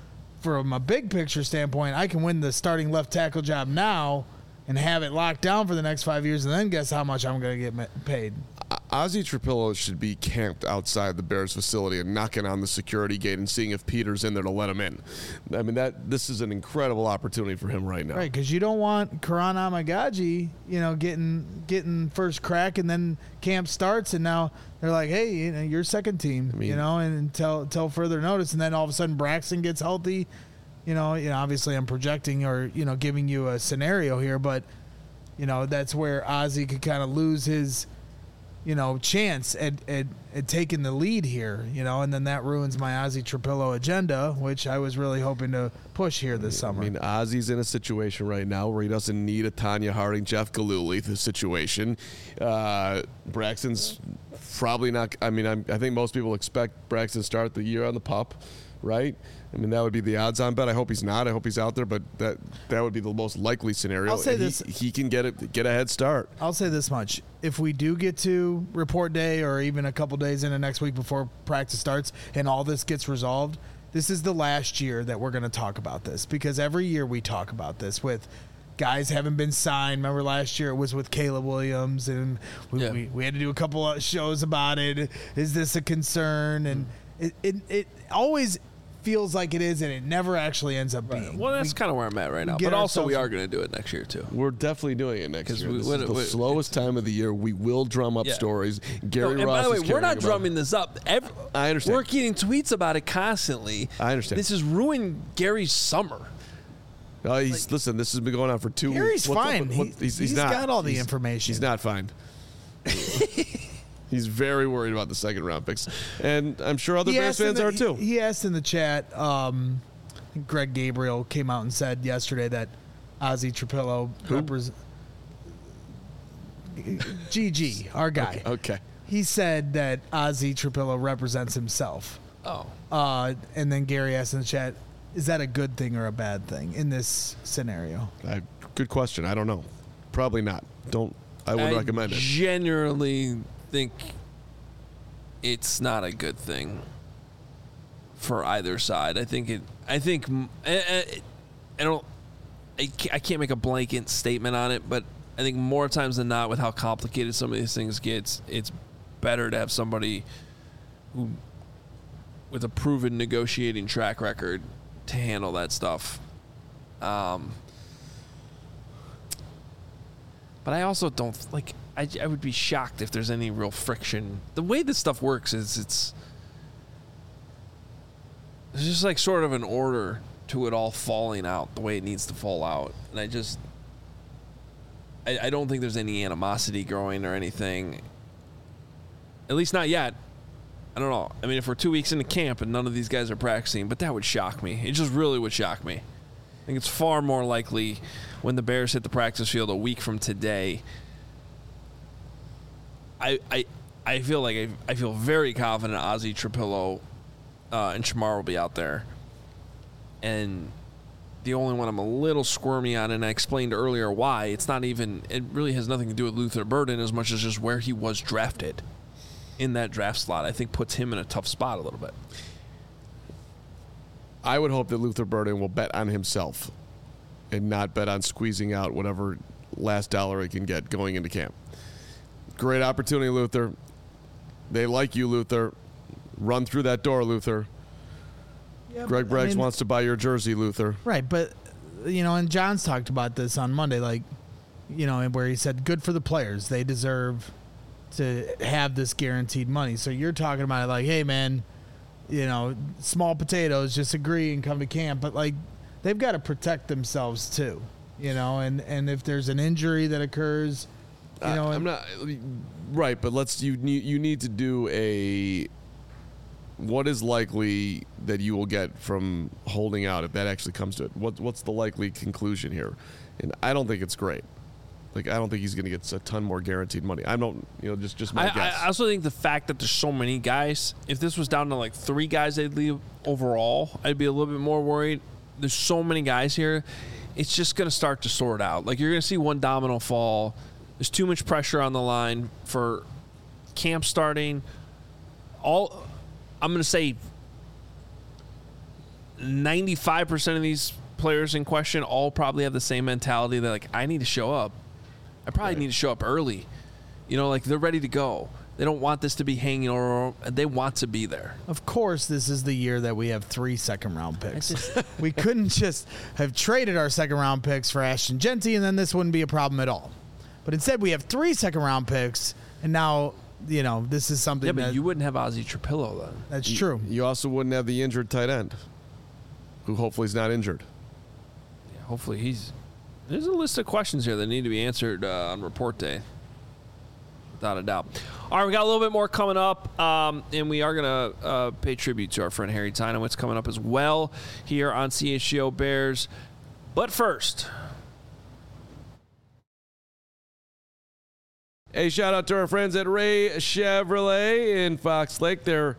from a big picture standpoint, I can win the starting left tackle job now and have it locked down for the next 5 years, and then guess how much I'm going to get paid. Ozzie Trapillo should be camped outside the Bears facility and knocking on the security gate and seeing if Peter's in there to let him in. I mean, this is an incredible opportunity for him right now. Right, because you don't want Karan Amagaji, getting first crack, and then camp starts, and now they're like, hey, you're second team, and until further notice, and then all of a sudden Braxton gets healthy. Obviously I'm projecting or, giving you a scenario here, but, that's where Ozzie could kind of lose his, chance at taking the lead here, and then that ruins my Ozzie Trapillo agenda, which I was really hoping to push here this summer. I mean, Ozzie's in a situation right now where he doesn't need a Tanya Harding, Jeff Gillooly situation. Braxton's probably not. I mean, I think most people expect Braxton to start the year on the pup, right? I mean, that would be the odds-on bet. I hope he's not. I hope he's out there, but that would be the most likely scenario. I'll say this: he can get a head start. I'll say this much: if we do get to report day, or even a couple days into next week before practice starts, and all this gets resolved, this is the last year that we're going to talk about this, because every year we talk about this with guys haven't been signed. Remember last year it was with Caleb Williams, and we had to do a couple of shows about it. Is this a concern? And it always feels like it is, and it never actually ends up being. Well, that's kind of where I'm at right now. But also, we are going to do it next year too. We're definitely doing it next year. This is the slowest time of the year. We will drum up stories. Gary Ross. By the way, is we're not about drumming this up. I understand. We're getting tweets about it constantly. I understand. This has ruined Gary's summer. Listen. This has been going on for 2 weeks. Gary's fine. He's not. Got all the information. He's not fine. He's very worried about the second round picks, and I'm sure other Bears fans are too. He asked in the chat. Greg Gabriel came out and said yesterday that Ozzie Trapillo GG, our guy. Okay. He said that Ozzie Trapillo represents himself. Oh. And then Gary asked in the chat, is that a good thing or a bad thing in this scenario? Good question. I don't know. Probably not. I wouldn't recommend it. Generally think it's not a good thing for either side. I can't make a blanket statement on it, but I think more times than not, with how complicated some of these things get, it's better to have somebody who with a proven negotiating track record to handle that stuff. But I also don't like. I would be shocked if there's any real friction. The way this stuff works is it's just like sort of an order to it all falling out the way it needs to fall out. And I don't think there's any animosity growing or anything. At least not yet. I don't know. I mean, if we're 2 weeks into camp and none of these guys are practicing, but that would shock me. It just really would shock me. I think it's far more likely when the Bears hit the practice field a week from today. I feel very confident Ozzie Trapillo and Shamar will be out there. And the only one I'm a little squirmy on, and I explained earlier why, it really has nothing to do with Luther Burden as much as just where he was drafted in that draft slot. I think puts him in a tough spot a little bit. I would hope that Luther Burden will bet on himself and not bet on squeezing out whatever last dollar he can get going into camp. Great opportunity, Luther. They like you, Luther. Run through that door, Luther. Yeah, Greg Braggs wants to buy your jersey, Luther. Right, but, and John's talked about this on Monday, where he said, good for the players. They deserve to have this guaranteed money. So you're talking about it like, hey, man, small potatoes, just agree and come to camp. But, they've got to protect themselves, too, and if there's an injury that occurs, I'm not right, but you need to do what is likely that you will get from holding out if that actually comes to it. What's the likely conclusion here? And I don't think it's great. I don't think he's going to get a ton more guaranteed money. I don't, just my guess. I also think the fact that there's so many guys, if this was down to 3 guys they'd leave overall, I'd be a little bit more worried. There's so many guys here. It's just going to start to sort out. You're going to see one domino fall. There's too much pressure on the line for camp starting. I'm going to say 95% of these players in question all probably have the same mentality. They're like, I need to show up. I probably need to show up early. Like they're ready to go. They don't want this to be hanging over. They want to be there. Of course, this is the year that we have 3 second-round picks. We couldn't just have traded our second-round picks for Ashton Genty, and then this wouldn't be a problem at all. But instead, we have 3 second-round picks, and now, this is something but you wouldn't have Ozzie Trapillo then. That's true. You also wouldn't have the injured tight end, who hopefully is not injured. Yeah, hopefully There's a list of questions here that need to be answered on report day. Without a doubt. All right, we got a little bit more coming up, and we are going to pay tribute to our friend Harry Tynowitz coming up as well here on CHGO Bears. But first, a shout out to our friends at Ray Chevrolet in Fox Lake. They're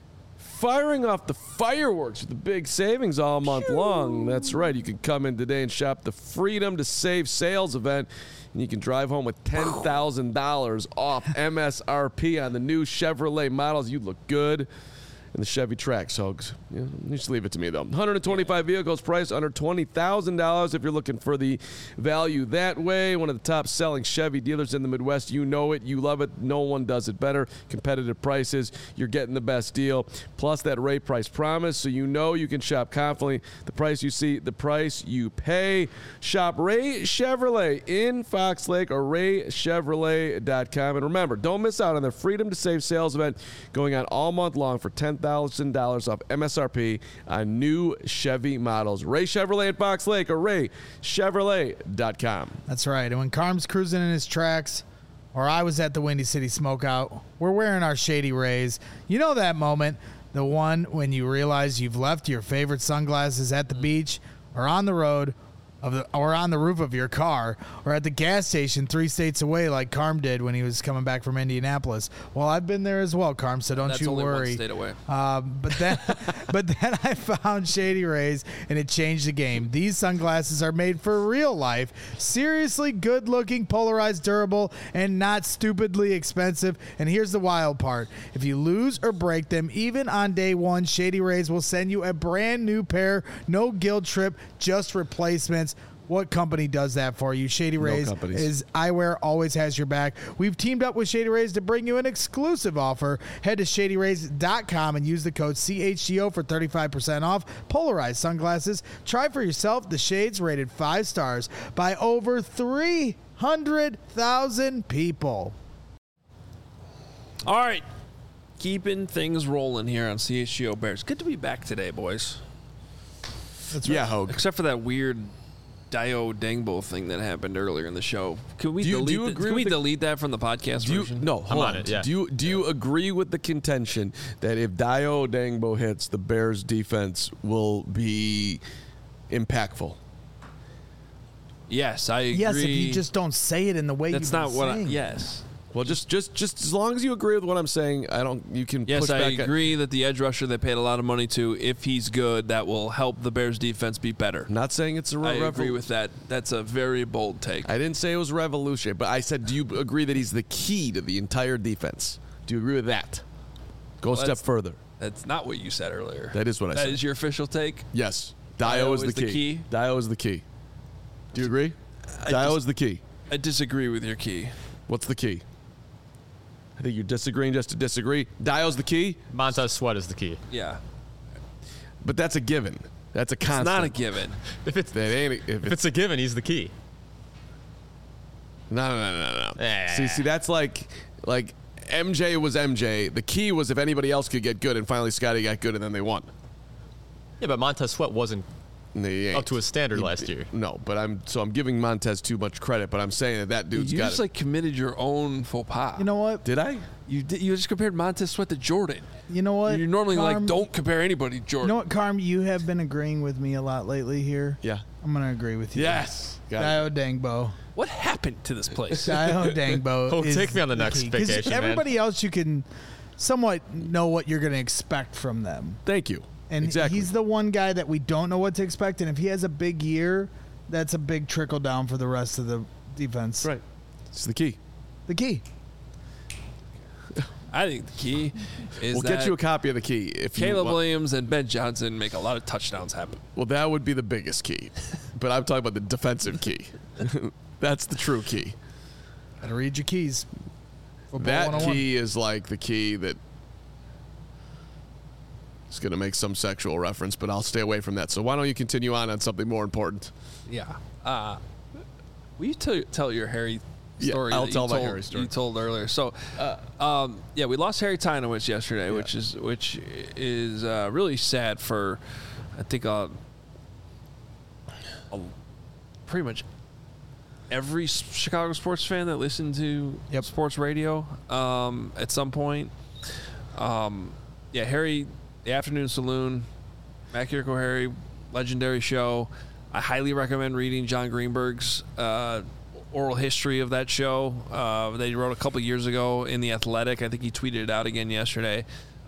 firing off the fireworks with the big savings all month long. That's right. You can come in today and shop the Freedom to Save sales event, and you can drive home with $10,000 off MSRP on the new Chevrolet models. You look good in the Chevy Trax, so you just leave it to me, though. 125 vehicles priced under $20,000 if you're looking for the value that way. One of the top-selling Chevy dealers in the Midwest. You know it. You love it. No one does it better. Competitive prices. You're getting the best deal. Plus that Ray price promise, so you know you can shop confidently. The price you see, the price you pay. Shop Ray Chevrolet in Fox Lake or raychevrolet.com. And remember, don't miss out on their Freedom to Save sales event going on all month long for $10,000 off MSRP on new Chevy models. Ray Chevrolet at Fox Lake or raychevrolet.com. That's right. And when Carm's cruising in his tracks, or I was at the Windy City Smokeout, we're wearing our Shady Rays. You know that moment, the one when you realize you've left your favorite sunglasses at the beach or on the road, or on the roof of your car, or at the gas station 3 states away like Carm did when he was coming back from Indianapolis. Well, I've been there as well, Carm, so don't you worry. That's only 1 state away. But then I found Shady Rays, and it changed the game. These sunglasses are made for real life, seriously good-looking, polarized, durable, and not stupidly expensive. And here's the wild part. If you lose or break them, even on day one, Shady Rays will send you a brand new pair, no guilt trip, just replacements. What company does that for you? Shady Rays is eyewear, always has your back. We've teamed up with Shady Rays to bring you an exclusive offer. Head to shadyrays.com and use the code CHGO for 35% off polarized sunglasses. Try for yourself the shades rated 5 stars by over 300,000 people. All right. Keeping things rolling here on CHGO Bears. Good to be back today, boys. That's right. Yeah, Hogue. Except for that weird Dio Dangbo thing that happened earlier in the show. Can we delete that from the podcast version? No, hold on. It, yeah. Do you agree with the contention that if Dio Dangbo hits, the Bears defense will be impactful? Yes, I agree. Yes, if you just don't say it in the way that's you've not been what. saying. Yes. Well, just as long as you agree with what I'm saying, you can Yes, push I back. agree that the edge rusher they paid a lot of money to, if he's good, that will help the Bears defense be better. I'm not saying it's a I agree with that. That's a very bold take. I didn't say it was revolutionary, but I said, do you agree that he's the key to the entire defense? Do you agree with that? Go a step further. That's not what you said earlier. That is what I said. That is your official take? Yes. Dio is the key. Dio is the key. Do you agree? Dio is the key. I disagree with your key. What's the key? I think you're disagreeing just to disagree. Dio's the key. Montez Sweat is the key. Yeah. But that's a given. That's a constant. It's not a given. If it's If a given, he's the key. No. Eh. See, that's like MJ was MJ. The key was if anybody else could get good, and finally Scotty got good, and then they won. Yeah, but Montez Sweat wasn't They ain't. up to his standard last year. No, but I'm giving Montez too much credit, but I'm saying that dude's You got just it. committed your own faux pas. You know what? Did I? You just compared Montez Sweat to Jordan. You know what? You normally Carm, don't compare anybody to Jordan. You know what, Carm? You have been agreeing with me a lot lately here. Yeah. I'm going to agree with you. Yes. Got it. Dio Dangbo. What happened to this place? Dio Dangbo. Oh, is take me on the next key. 'Cause vacation, man. everybody else, you can somewhat know what you're going to expect from them. Thank you. And exactly. he's the one guy that we don't know what to expect. And if he has a big year, that's a big trickle down for the rest of the defense. right. It's the key. The key. I think the key is We'll that get you a copy of the key if Caleb you want. Williams and Ben Johnson make a lot of touchdowns happen. Well, that would be the biggest key, but I'm talking about the defensive key. That's the true key. Gotta read your keys. Football That 101. key is like the key that is going to make some sexual reference, but I'll stay away from that. So why don't you continue on something more important? Yeah. Will you tell your Harry Yeah, story? I'll that tell you my told, Harry story. You told earlier. So, we lost Harry Tynowitz yesterday, which is really sad for, I think, pretty much every Chicago sports fan that listened to sports radio at some point. Harry, the Afternoon Saloon, Matt Kirko Harry, legendary show. I highly recommend reading John Greenberg's oral history of that show. They wrote a couple years ago in The Athletic. I think he tweeted it out again yesterday.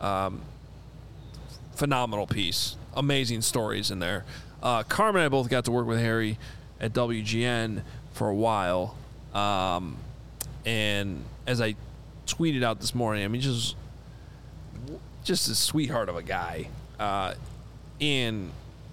Phenomenal piece. Amazing stories in there. Carmen and I both got to work with Harry at WGN for a while. And as I tweeted out this morning, I mean, just a sweetheart of a guy. And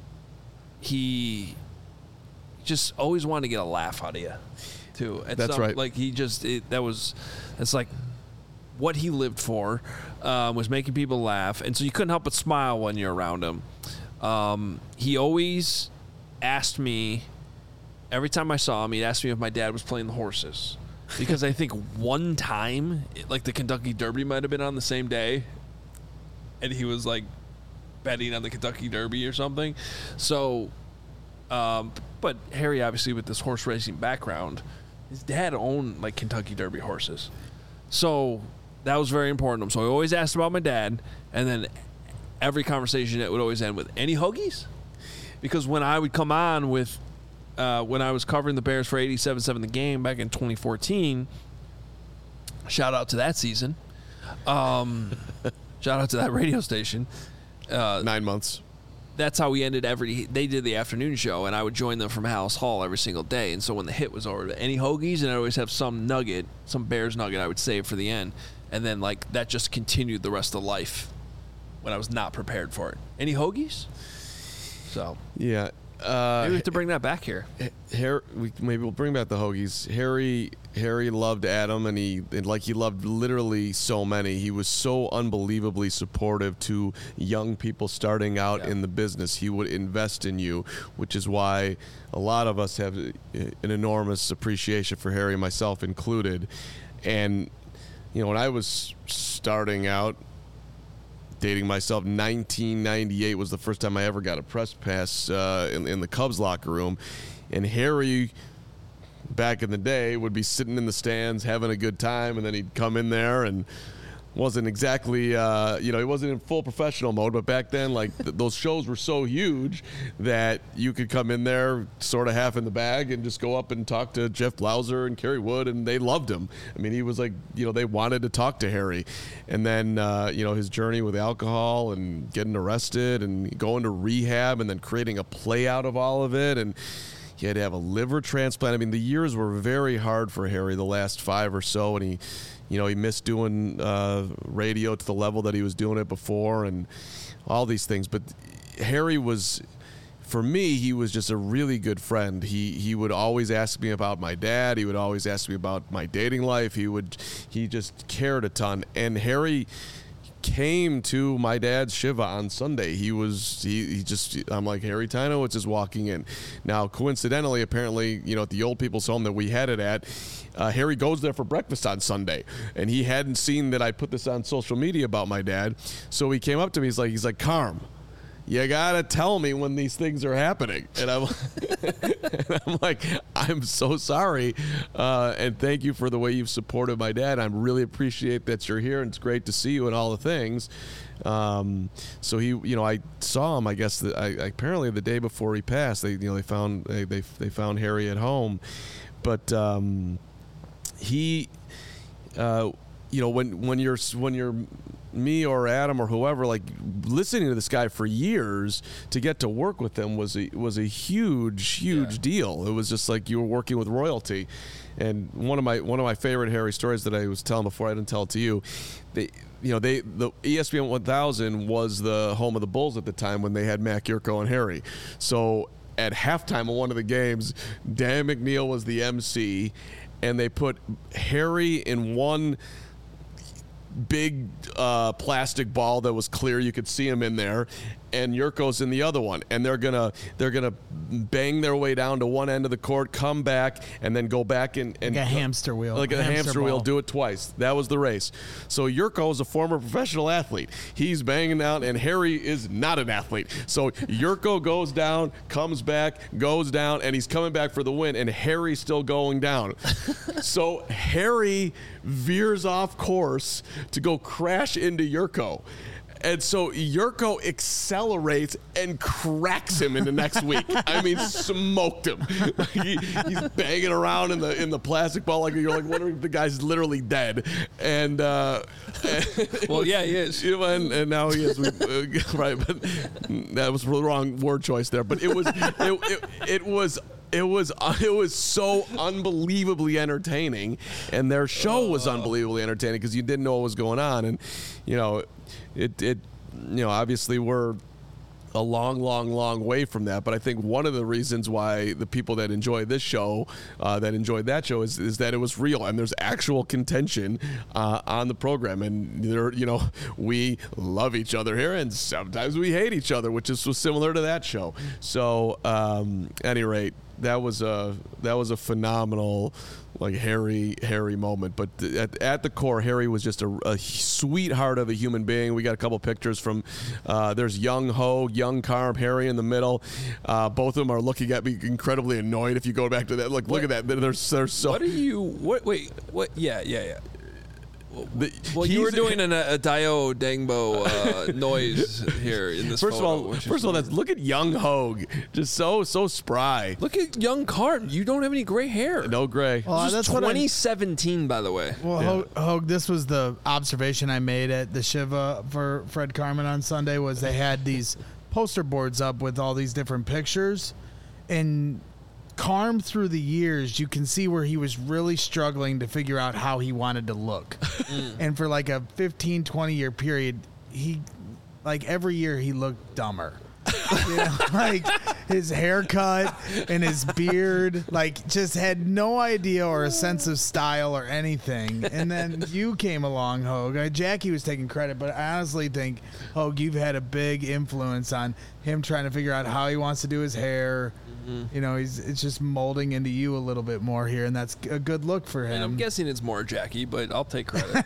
he just always wanted to get a laugh out of you, too. That's right. Like, it's like what he lived for, was making people laugh. And so you couldn't help but smile when you're around him. He always asked me, every time I saw him, he'd ask me if my dad was playing the horses. Because I think one time, like the Kentucky Derby might have been on the same day, and he was like betting on the Kentucky Derby or something. So, but Harry, obviously with this horse racing background, his dad owned like Kentucky Derby horses. So that was very important to him. So he always asked about my dad, and then every conversation it would always end with, any hoagies? Because when I would come on with, when I was covering the Bears for 87.7 The Game back in 2014, shout out to that season. Shout out to that radio station. 9 months. That's how we ended they did the afternoon show, and I would join them from House Hall every single day. And so when the hit was over, any hoagies, and I always have some nugget, some Bears nugget I would save for the end. And then like that just continued the rest of life when I was not prepared for it. Any hoagies? So Yeah. maybe we have to bring that back here. Maybe we'll bring back the hoagies. Harry loved Adam, and he loved literally so many. He was so unbelievably supportive to young people starting out in the business. He would invest in you, which is why a lot of us have an enormous appreciation for Harry, myself included. And when I was starting out, dating myself, 1998 was the first time I ever got a press pass in the Cubs locker room. And Harry, back in the day, would be sitting in the stands having a good time, and then he'd come in there and wasn't exactly, he wasn't in full professional mode, but back then, like, those shows were so huge that you could come in there sort of half in the bag and just go up and talk to Jeff Blauser and Kerry Wood, and they loved him. I mean, he was like, they wanted to talk to Harry. And then, his journey with alcohol and getting arrested and going to rehab and then creating a play out of all of it, and he had to have a liver transplant. I mean, the years were very hard for Harry, the last 5 or so, and he missed doing radio to the level that he was doing it before and all these things. But Harry was, for me, he was just a really good friend. He would always ask me about my dad. He would always ask me about my dating life. He just cared a ton. And Harry came to my dad's Shiva on Sunday. I'm like, Harry Tynowitz is walking in. Now, coincidentally, apparently, at the old people's home that we had it at, Harry goes there for breakfast on Sunday, and he hadn't seen that I put this on social media about my dad. So he came up to me. He's like, Carm, you gotta tell me when these things are happening. And I'm like, I'm so sorry, and thank you for the way you've supported my dad. I really appreciate that you're here, and it's great to see you and all the things. So he, I saw him. I guess apparently the day before he passed, they found Harry at home, but he. when you're me or Adam or whoever, like listening to this guy for years, to get to work with him was a huge deal. It was just like you were working with royalty. And one of my favorite Harry stories that I was telling before, I didn't tell it to you, the ESPN 1000 was the home of the Bulls at the time when they had Mac Yurko and Harry. So at halftime of one of the games, Dan McNeil was the MC, and they put Harry in one big plastic ball that was clear, you could see him in there, and Yurko's in the other one, and they're gonna bang their way down to one end of the court, come back, and then go back and like a hamster wheel, like a hamster wheel, do it twice. That was the race. So Yurko is a former professional athlete. He's banging down, and Harry is not an athlete. So Yurko goes down, comes back, goes down, and he's coming back for the win, and Harry's still going down. So Harry veers off course to go crash into Yurko. And so Yurko accelerates and cracks him in the next week. I mean, smoked him. He's banging around in the plastic ball like you're like, what if the guy's literally dead? And well, yeah, he is. And now he is. Right, but that was the wrong word choice there. But it was so unbelievably entertaining, and their show was unbelievably entertaining because you didn't know what was going on, and obviously we're a long way from that, but I think one of the reasons why the people that enjoy this show, that enjoyed that show, is that it was real and there's actual contention on the program, and we love each other here and sometimes we hate each other, which is similar to that show. So, at any rate, that was a phenomenal, like, Harry moment. But at the core, Harry was just a sweetheart of a human being. We got a couple pictures from there's young Hogue, young Carm, Harry in the middle. Both of them are looking at me incredibly annoyed. If you go back to that, look at that. They're so. What are you? Wait. What? Yeah. You were doing a Dio Dangbo noise here in this First photo. of all, look at young Hogue, just so spry. Look at young Carm. You don't have any gray hair. No gray. Well, This is 2017, by the way. Well, Hogue, this was the observation I made at the Shiva for Fred Carman on Sunday, was they had these poster boards up with all these different pictures, and Carm, through the years, you can see where he was really struggling to figure out how he wanted to look. And for like a 15, 20-year period, every year he looked dumber. Like his haircut and his beard, just had no idea or a sense of style or anything. And then you came along, Hogue. Jackie was taking credit, but I honestly think, Hogue, you've had a big influence on him trying to figure out how he wants to do his hair. It's just molding into you a little bit more here, and that's a good look for him. And I'm guessing it's more Jackie, but I'll take credit.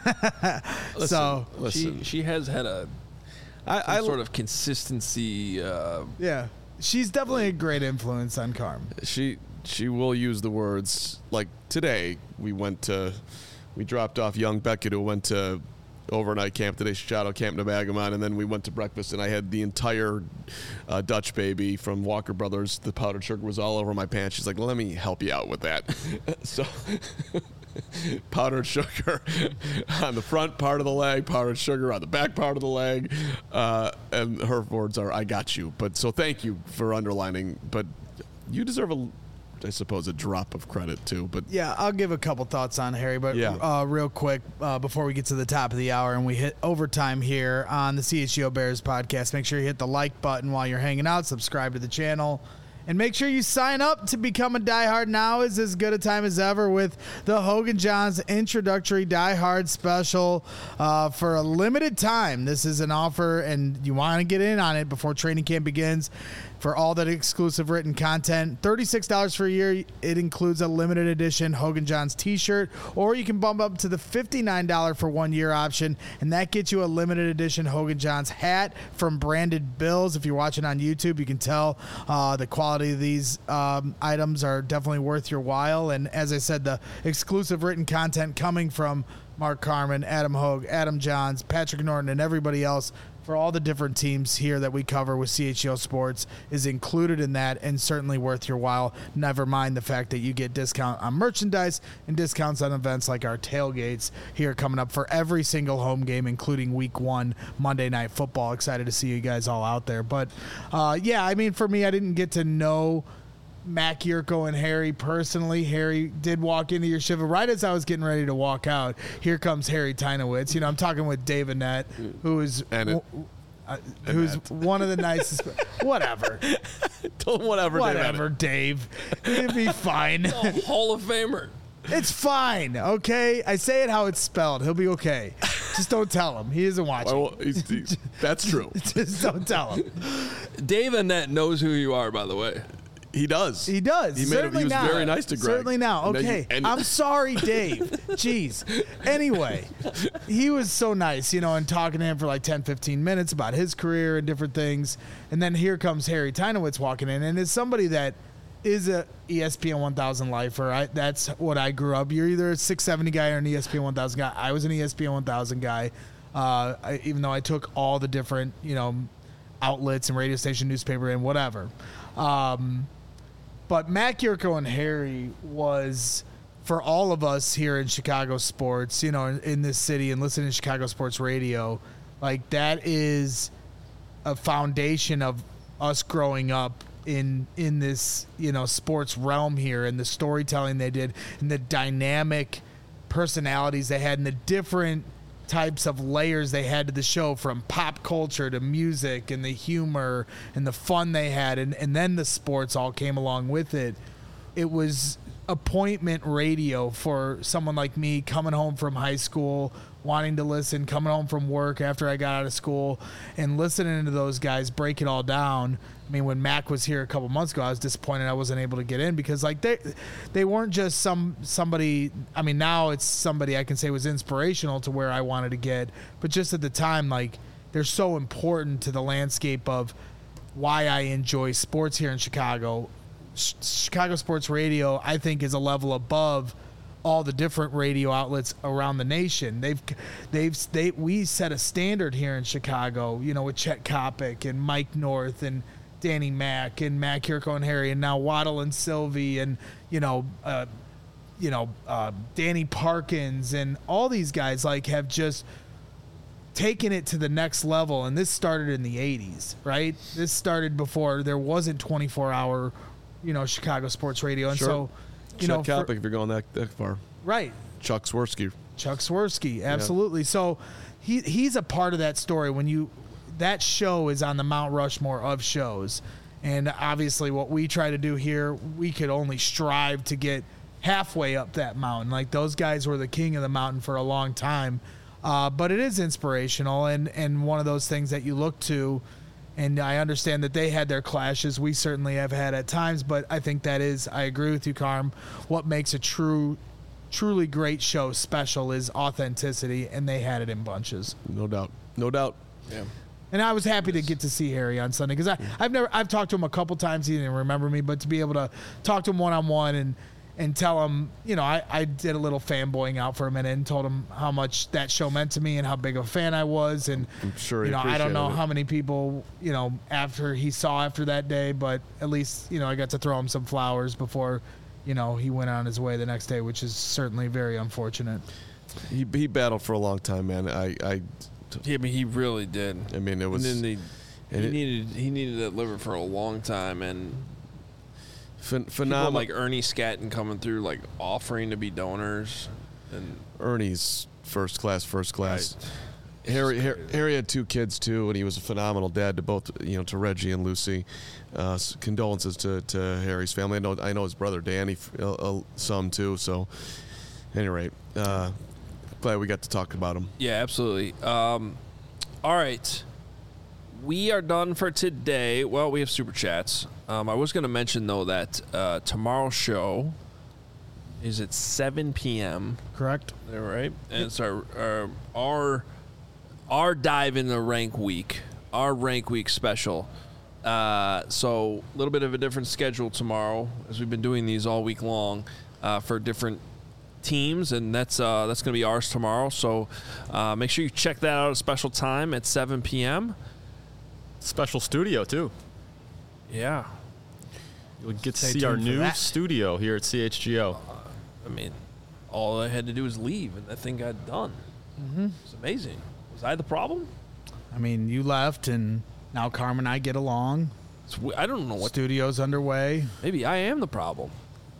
Listen. She has had some sort of consistency. Yeah, she's definitely a great influence on Carm. She will use the words, like today we dropped off young Beckett, who went to overnight camp today, Shadow Camp Nemagamon, and then we went to breakfast, and I had the entire Dutch Baby from Walker Brothers. The powdered sugar was all over my pants. She's like, let me help you out with that. So powdered sugar on the front part of the leg, powdered sugar on the back part of the leg, and her words are, I got you. But so thank you for underlining, but you deserve I suppose a drop of credit too, but yeah, I'll give a couple thoughts on Harry, but real quick before we get to the top of the hour and we hit overtime here on the CHGO Bears podcast, make sure you hit the like button while you're hanging out, subscribe to the channel, and make sure you sign up to become a diehard. Now is as good a time as ever with the Hogue & John's introductory diehard special for a limited time. This is an offer, and you want to get in on it before training camp begins. For all that exclusive written content, $36 for a year. It includes a limited edition Hogue & John's t-shirt, or you can bump up to the $59 for 1 year option, and that gets you a limited edition Hogue & John's hat from Branded Bills. If you're watching on YouTube, you can tell the quality of these items are definitely worth your while. And as I said, the exclusive written content coming from Mark Carman, Adam Hogue, Adam Johns, Patrick Norton, and everybody else for all the different teams here that we cover with CHGO Sports is included in that and certainly worth your while. Never mind the fact that you get discount on merchandise and discounts on events like our tailgates here coming up for every single home game, including week 1 Monday Night Football. Excited to see you guys all out there. But, yeah, I mean, for me, I didn't get to know Mac Yurko and Harry personally. Harry did walk into your shiva right as I was getting ready to walk out. Here comes Harry Tynowitz. You know, I'm talking with Dave Annette, who is who's one of the nicest. Whatever, Whatever, Dave. It'd be fine. Hall of Famer. It's fine, okay? I say it how it's spelled. He'll be okay. Just don't tell him. He isn't watching. Well, that's true. Just don't tell him. Dave Annette knows who you are, by the way. He does. He does. He Certainly was now. very nice to Greg. Certainly now. Okay. I'm sorry, Dave. Jeez. Anyway, he was so nice, you know, and talking to him for like 10, 15 minutes about his career and different things. And then here comes Harry Tynowitz walking in. And as somebody that is a ESPN 1000 lifer, that's what I grew up. You're either a 670 guy or an ESPN 1000 guy. I was an ESPN 1000 guy, even though I took all the different, you know, outlets and radio station, newspaper, and whatever. But Mac Yurko and Harry was, for all of us here in Chicago sports, you know, in this city and listening to Chicago sports radio, like that is a foundation of us growing up in this, you know, sports realm here, and the storytelling they did and the dynamic personalities they had and the different types of layers they had to the show, from pop culture to music and the humor and the fun they had, and then the sports all came along with it. It was appointment radio for someone like me coming home from high school, wanting to listen, coming home from work after I got out of school, and listening to those guys break it all down. I mean, when Mac was here a couple months ago, I was disappointed I wasn't able to get in because, like, they weren't just somebody. I mean, now it's somebody I can say was inspirational to where I wanted to get, but just at the time, like, they're so important to the landscape of why I enjoy sports here in Chicago. Chicago Sports Radio, I think, is a level above all the different radio outlets around the nation. We set a standard here in Chicago, you know, with Chet Kopic and Mike North and Danny Mac and Mac Yurko and Harry, and now Waddle and Sylvie, and Danny Parkins, and all these guys like have just taken it to the next level. And this started in the 80s, right? This started before there wasn't 24-hour, you know, Chicago sports radio. And Sure. so, you Chet know, Kopic, if you're going that far. right. Chuck Swirsky. Chuck Swirsky, absolutely. Yeah. So he's a part of that story. That show is on the Mount Rushmore of shows. And obviously what we try to do here, we could only strive to get halfway up that mountain. Like, those guys were the king of the mountain for a long time. But it is inspirational and one of those things that you look to. And I understand that they had their clashes. We certainly have had at times, but I think that is, I agree with you, Carm, what makes a truly great show special is authenticity, and they had it in bunches. No doubt. Yeah. And I was happy to get to see Harry on Sunday because I've talked to him a couple times. He didn't remember me, but to be able to talk to him one-on-one and tell him, you know, I did a little fanboying out for a minute and told him how much that show meant to me and how big of a fan I was. And I'm sure he I don't know appreciated it. how many people, you know, after that day, but at least, you know, I got to throw him some flowers before, you know, he went on his way the next day, which is certainly very unfortunate. He battled for a long time, man. Yeah, I mean, he really did. I mean, it was. And then he needed that liver for a long time, and phenomenal. People like Ernie Scatton coming through, like offering to be donors, and Ernie's first class. Right. Harry had 2 kids too, and he was a phenomenal dad to both, you know, to Reggie and Lucy. Condolences to Harry's family. I know his brother Danny some too. So, at any rate, glad we got to talk about him. Yeah, absolutely. All right. We are done for today. Well, we have Super Chats. I was going to mention, though, that tomorrow's show is at 7 p.m. Correct. Is that right? And it's our dive in the rank week, our rank week special. So a little bit of a different schedule tomorrow, as we've been doing these all week long for different teams, and that's going to be ours tomorrow. So make sure you check that out at a special time at 7 p.m. Special studio, too. Yeah. You'll get to Stay see our tuned for new that. studio here at CHGO. I mean, all I had to do was leave, and that thing got done. Mm-hmm. It's amazing. Was I the problem? I mean, you left, and now Carmen and I get along. I don't know what. Studio's underway. Maybe I am the problem.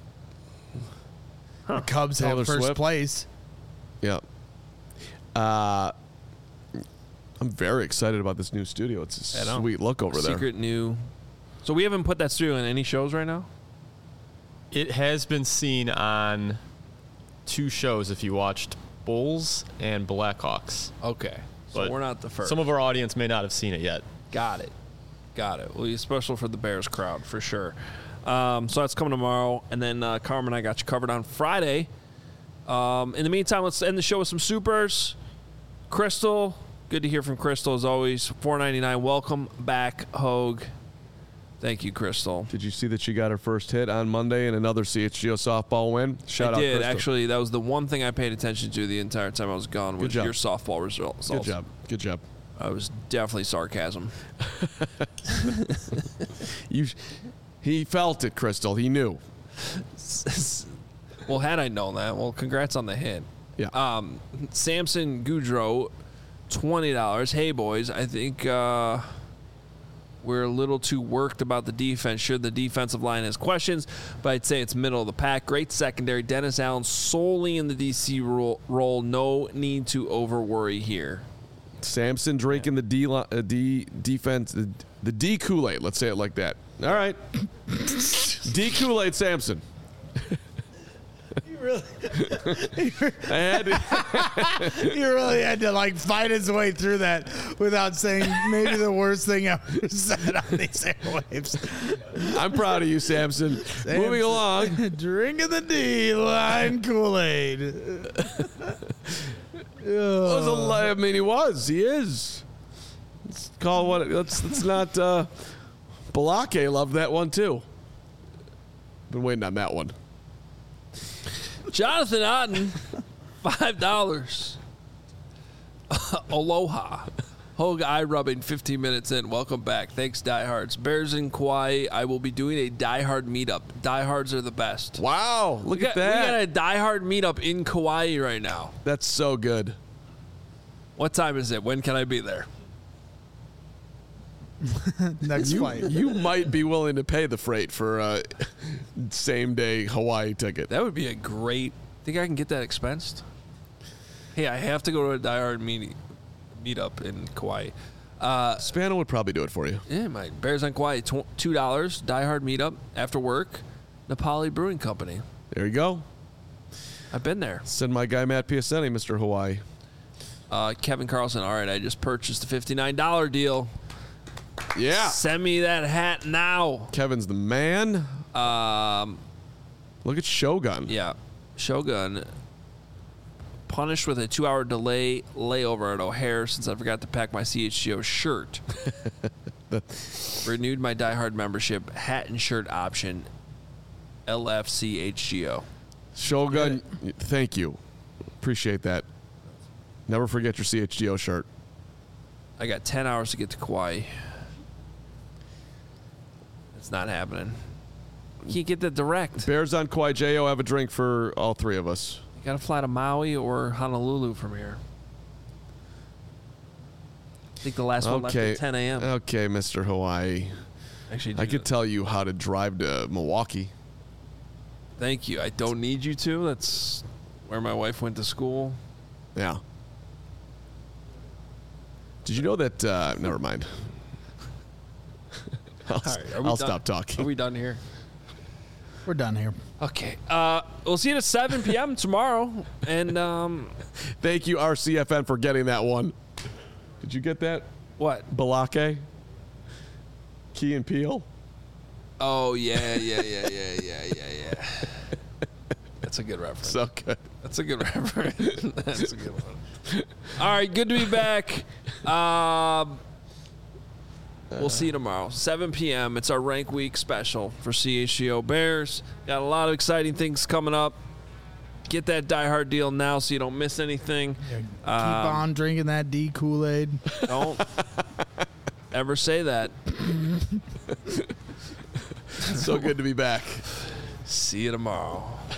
The Cubs Taylor have first Swift. place. Yeah. I'm very excited about this new studio. It's a I know. sweet look over there. Secret new. So we haven't put that studio in any shows right now? It has been seen on 2 shows if you watched Bulls and Blackhawks. Okay. So But we're not the first. Some of our audience may not have seen it yet. Got it. Well, it's special for the Bears crowd for sure. So that's coming tomorrow, and then Carmen and I got you covered on Friday. In the meantime, let's end the show with some supers. Crystal, good to hear from Crystal as always. $4.99. Welcome back, Hogue. Thank you, Crystal. Did you see that she got her first hit on Monday in another CHGO softball win? Shout I out did Crystal. actually. That was the one thing I paid attention to the entire time I was gone. Was job. your softball results. Good job. Good job. I was definitely sarcasm. He felt it, Crystal. He knew. Well, had I known that, well, congrats on the hit. Yeah. Samson Goudreau, $20. Hey, boys, I think we're a little too worked about the defense. Sure, the defensive line has questions, but I'd say it's middle of the pack. Great secondary. Dennis Allen solely in the DC role. No need to over-worry here. Samson drinking the defense, the D Kool-Aid. Let's say it like that. All right. D Kool-Aid Samson. You really, I had to. you really had to like fight his way through that without saying maybe the worst thing I ever said on these airwaves. I'm proud of you, Samson. Moving along. Drinking the D-line Kool-Aid. I mean, he is. Let's call what. Let's not. Balake loved that one too. Been waiting on that one. Jonathan Otten, $5. Aloha. Hogue eye rubbing 15 minutes in. Welcome back. Thanks, diehards. Bears in Kauai. I will be doing a diehard meetup. Diehards are the best. Wow, look at that. We got a diehard meetup in Kauai right now. That's so good. What time is it? When can I be there? Next flight. You might be willing to pay the freight for a same day Hawaii ticket. That would be a great. Think I can get that expensed? Hey, I have to go to a diehard meetup in Kauai. Spano would probably do it for you. Yeah, my Bears on Kauai, $2. Diehard meetup after work. Napali Brewing Company. There you go. I've been there. Send my guy Matt Piacenti, Mr. Hawaii. Kevin Carlson. All right, I just purchased a $59 deal. Yeah. Send me that hat now. Kevin's the man. Look at Shogun. Yeah, Shogun. Punished with a 2-hour delay layover at O'Hare since I forgot to pack my CHGO shirt. Renewed my diehard membership, hat and shirt option, LFCHGO. Shogun, thank you. Appreciate that. Never forget your CHGO shirt. I got 10 hours to get to Kauai. It's not happening. You can't get the direct. Bears on Kauai. J.O. have a drink for all three of us. You got to fly to Maui or Honolulu from here. I think the last one left at 10 a.m. Okay, Mr. Hawaii. Actually, I could tell you how to drive to Milwaukee. Thank you. I don't need you to. That's where my wife went to school. Yeah. Did you know that? Never mind. I'll stop talking. Are we done here? We're done here. Okay. We'll see you at 7 p.m. tomorrow. And Thank you, RCFN, for getting that one. Did you get that? what? Balake? Key and Peele? Oh, yeah. That's a good reference. So good. That's a good reference. That's a good one. All right, good to be back. We'll see you tomorrow, 7 p.m. It's our Rank Week special for CHGO Bears. Got a lot of exciting things coming up. Get that Die Hard deal now so you don't miss anything. Keep on drinking that D Kool-Aid. Don't ever say that. So good to be back. See you tomorrow.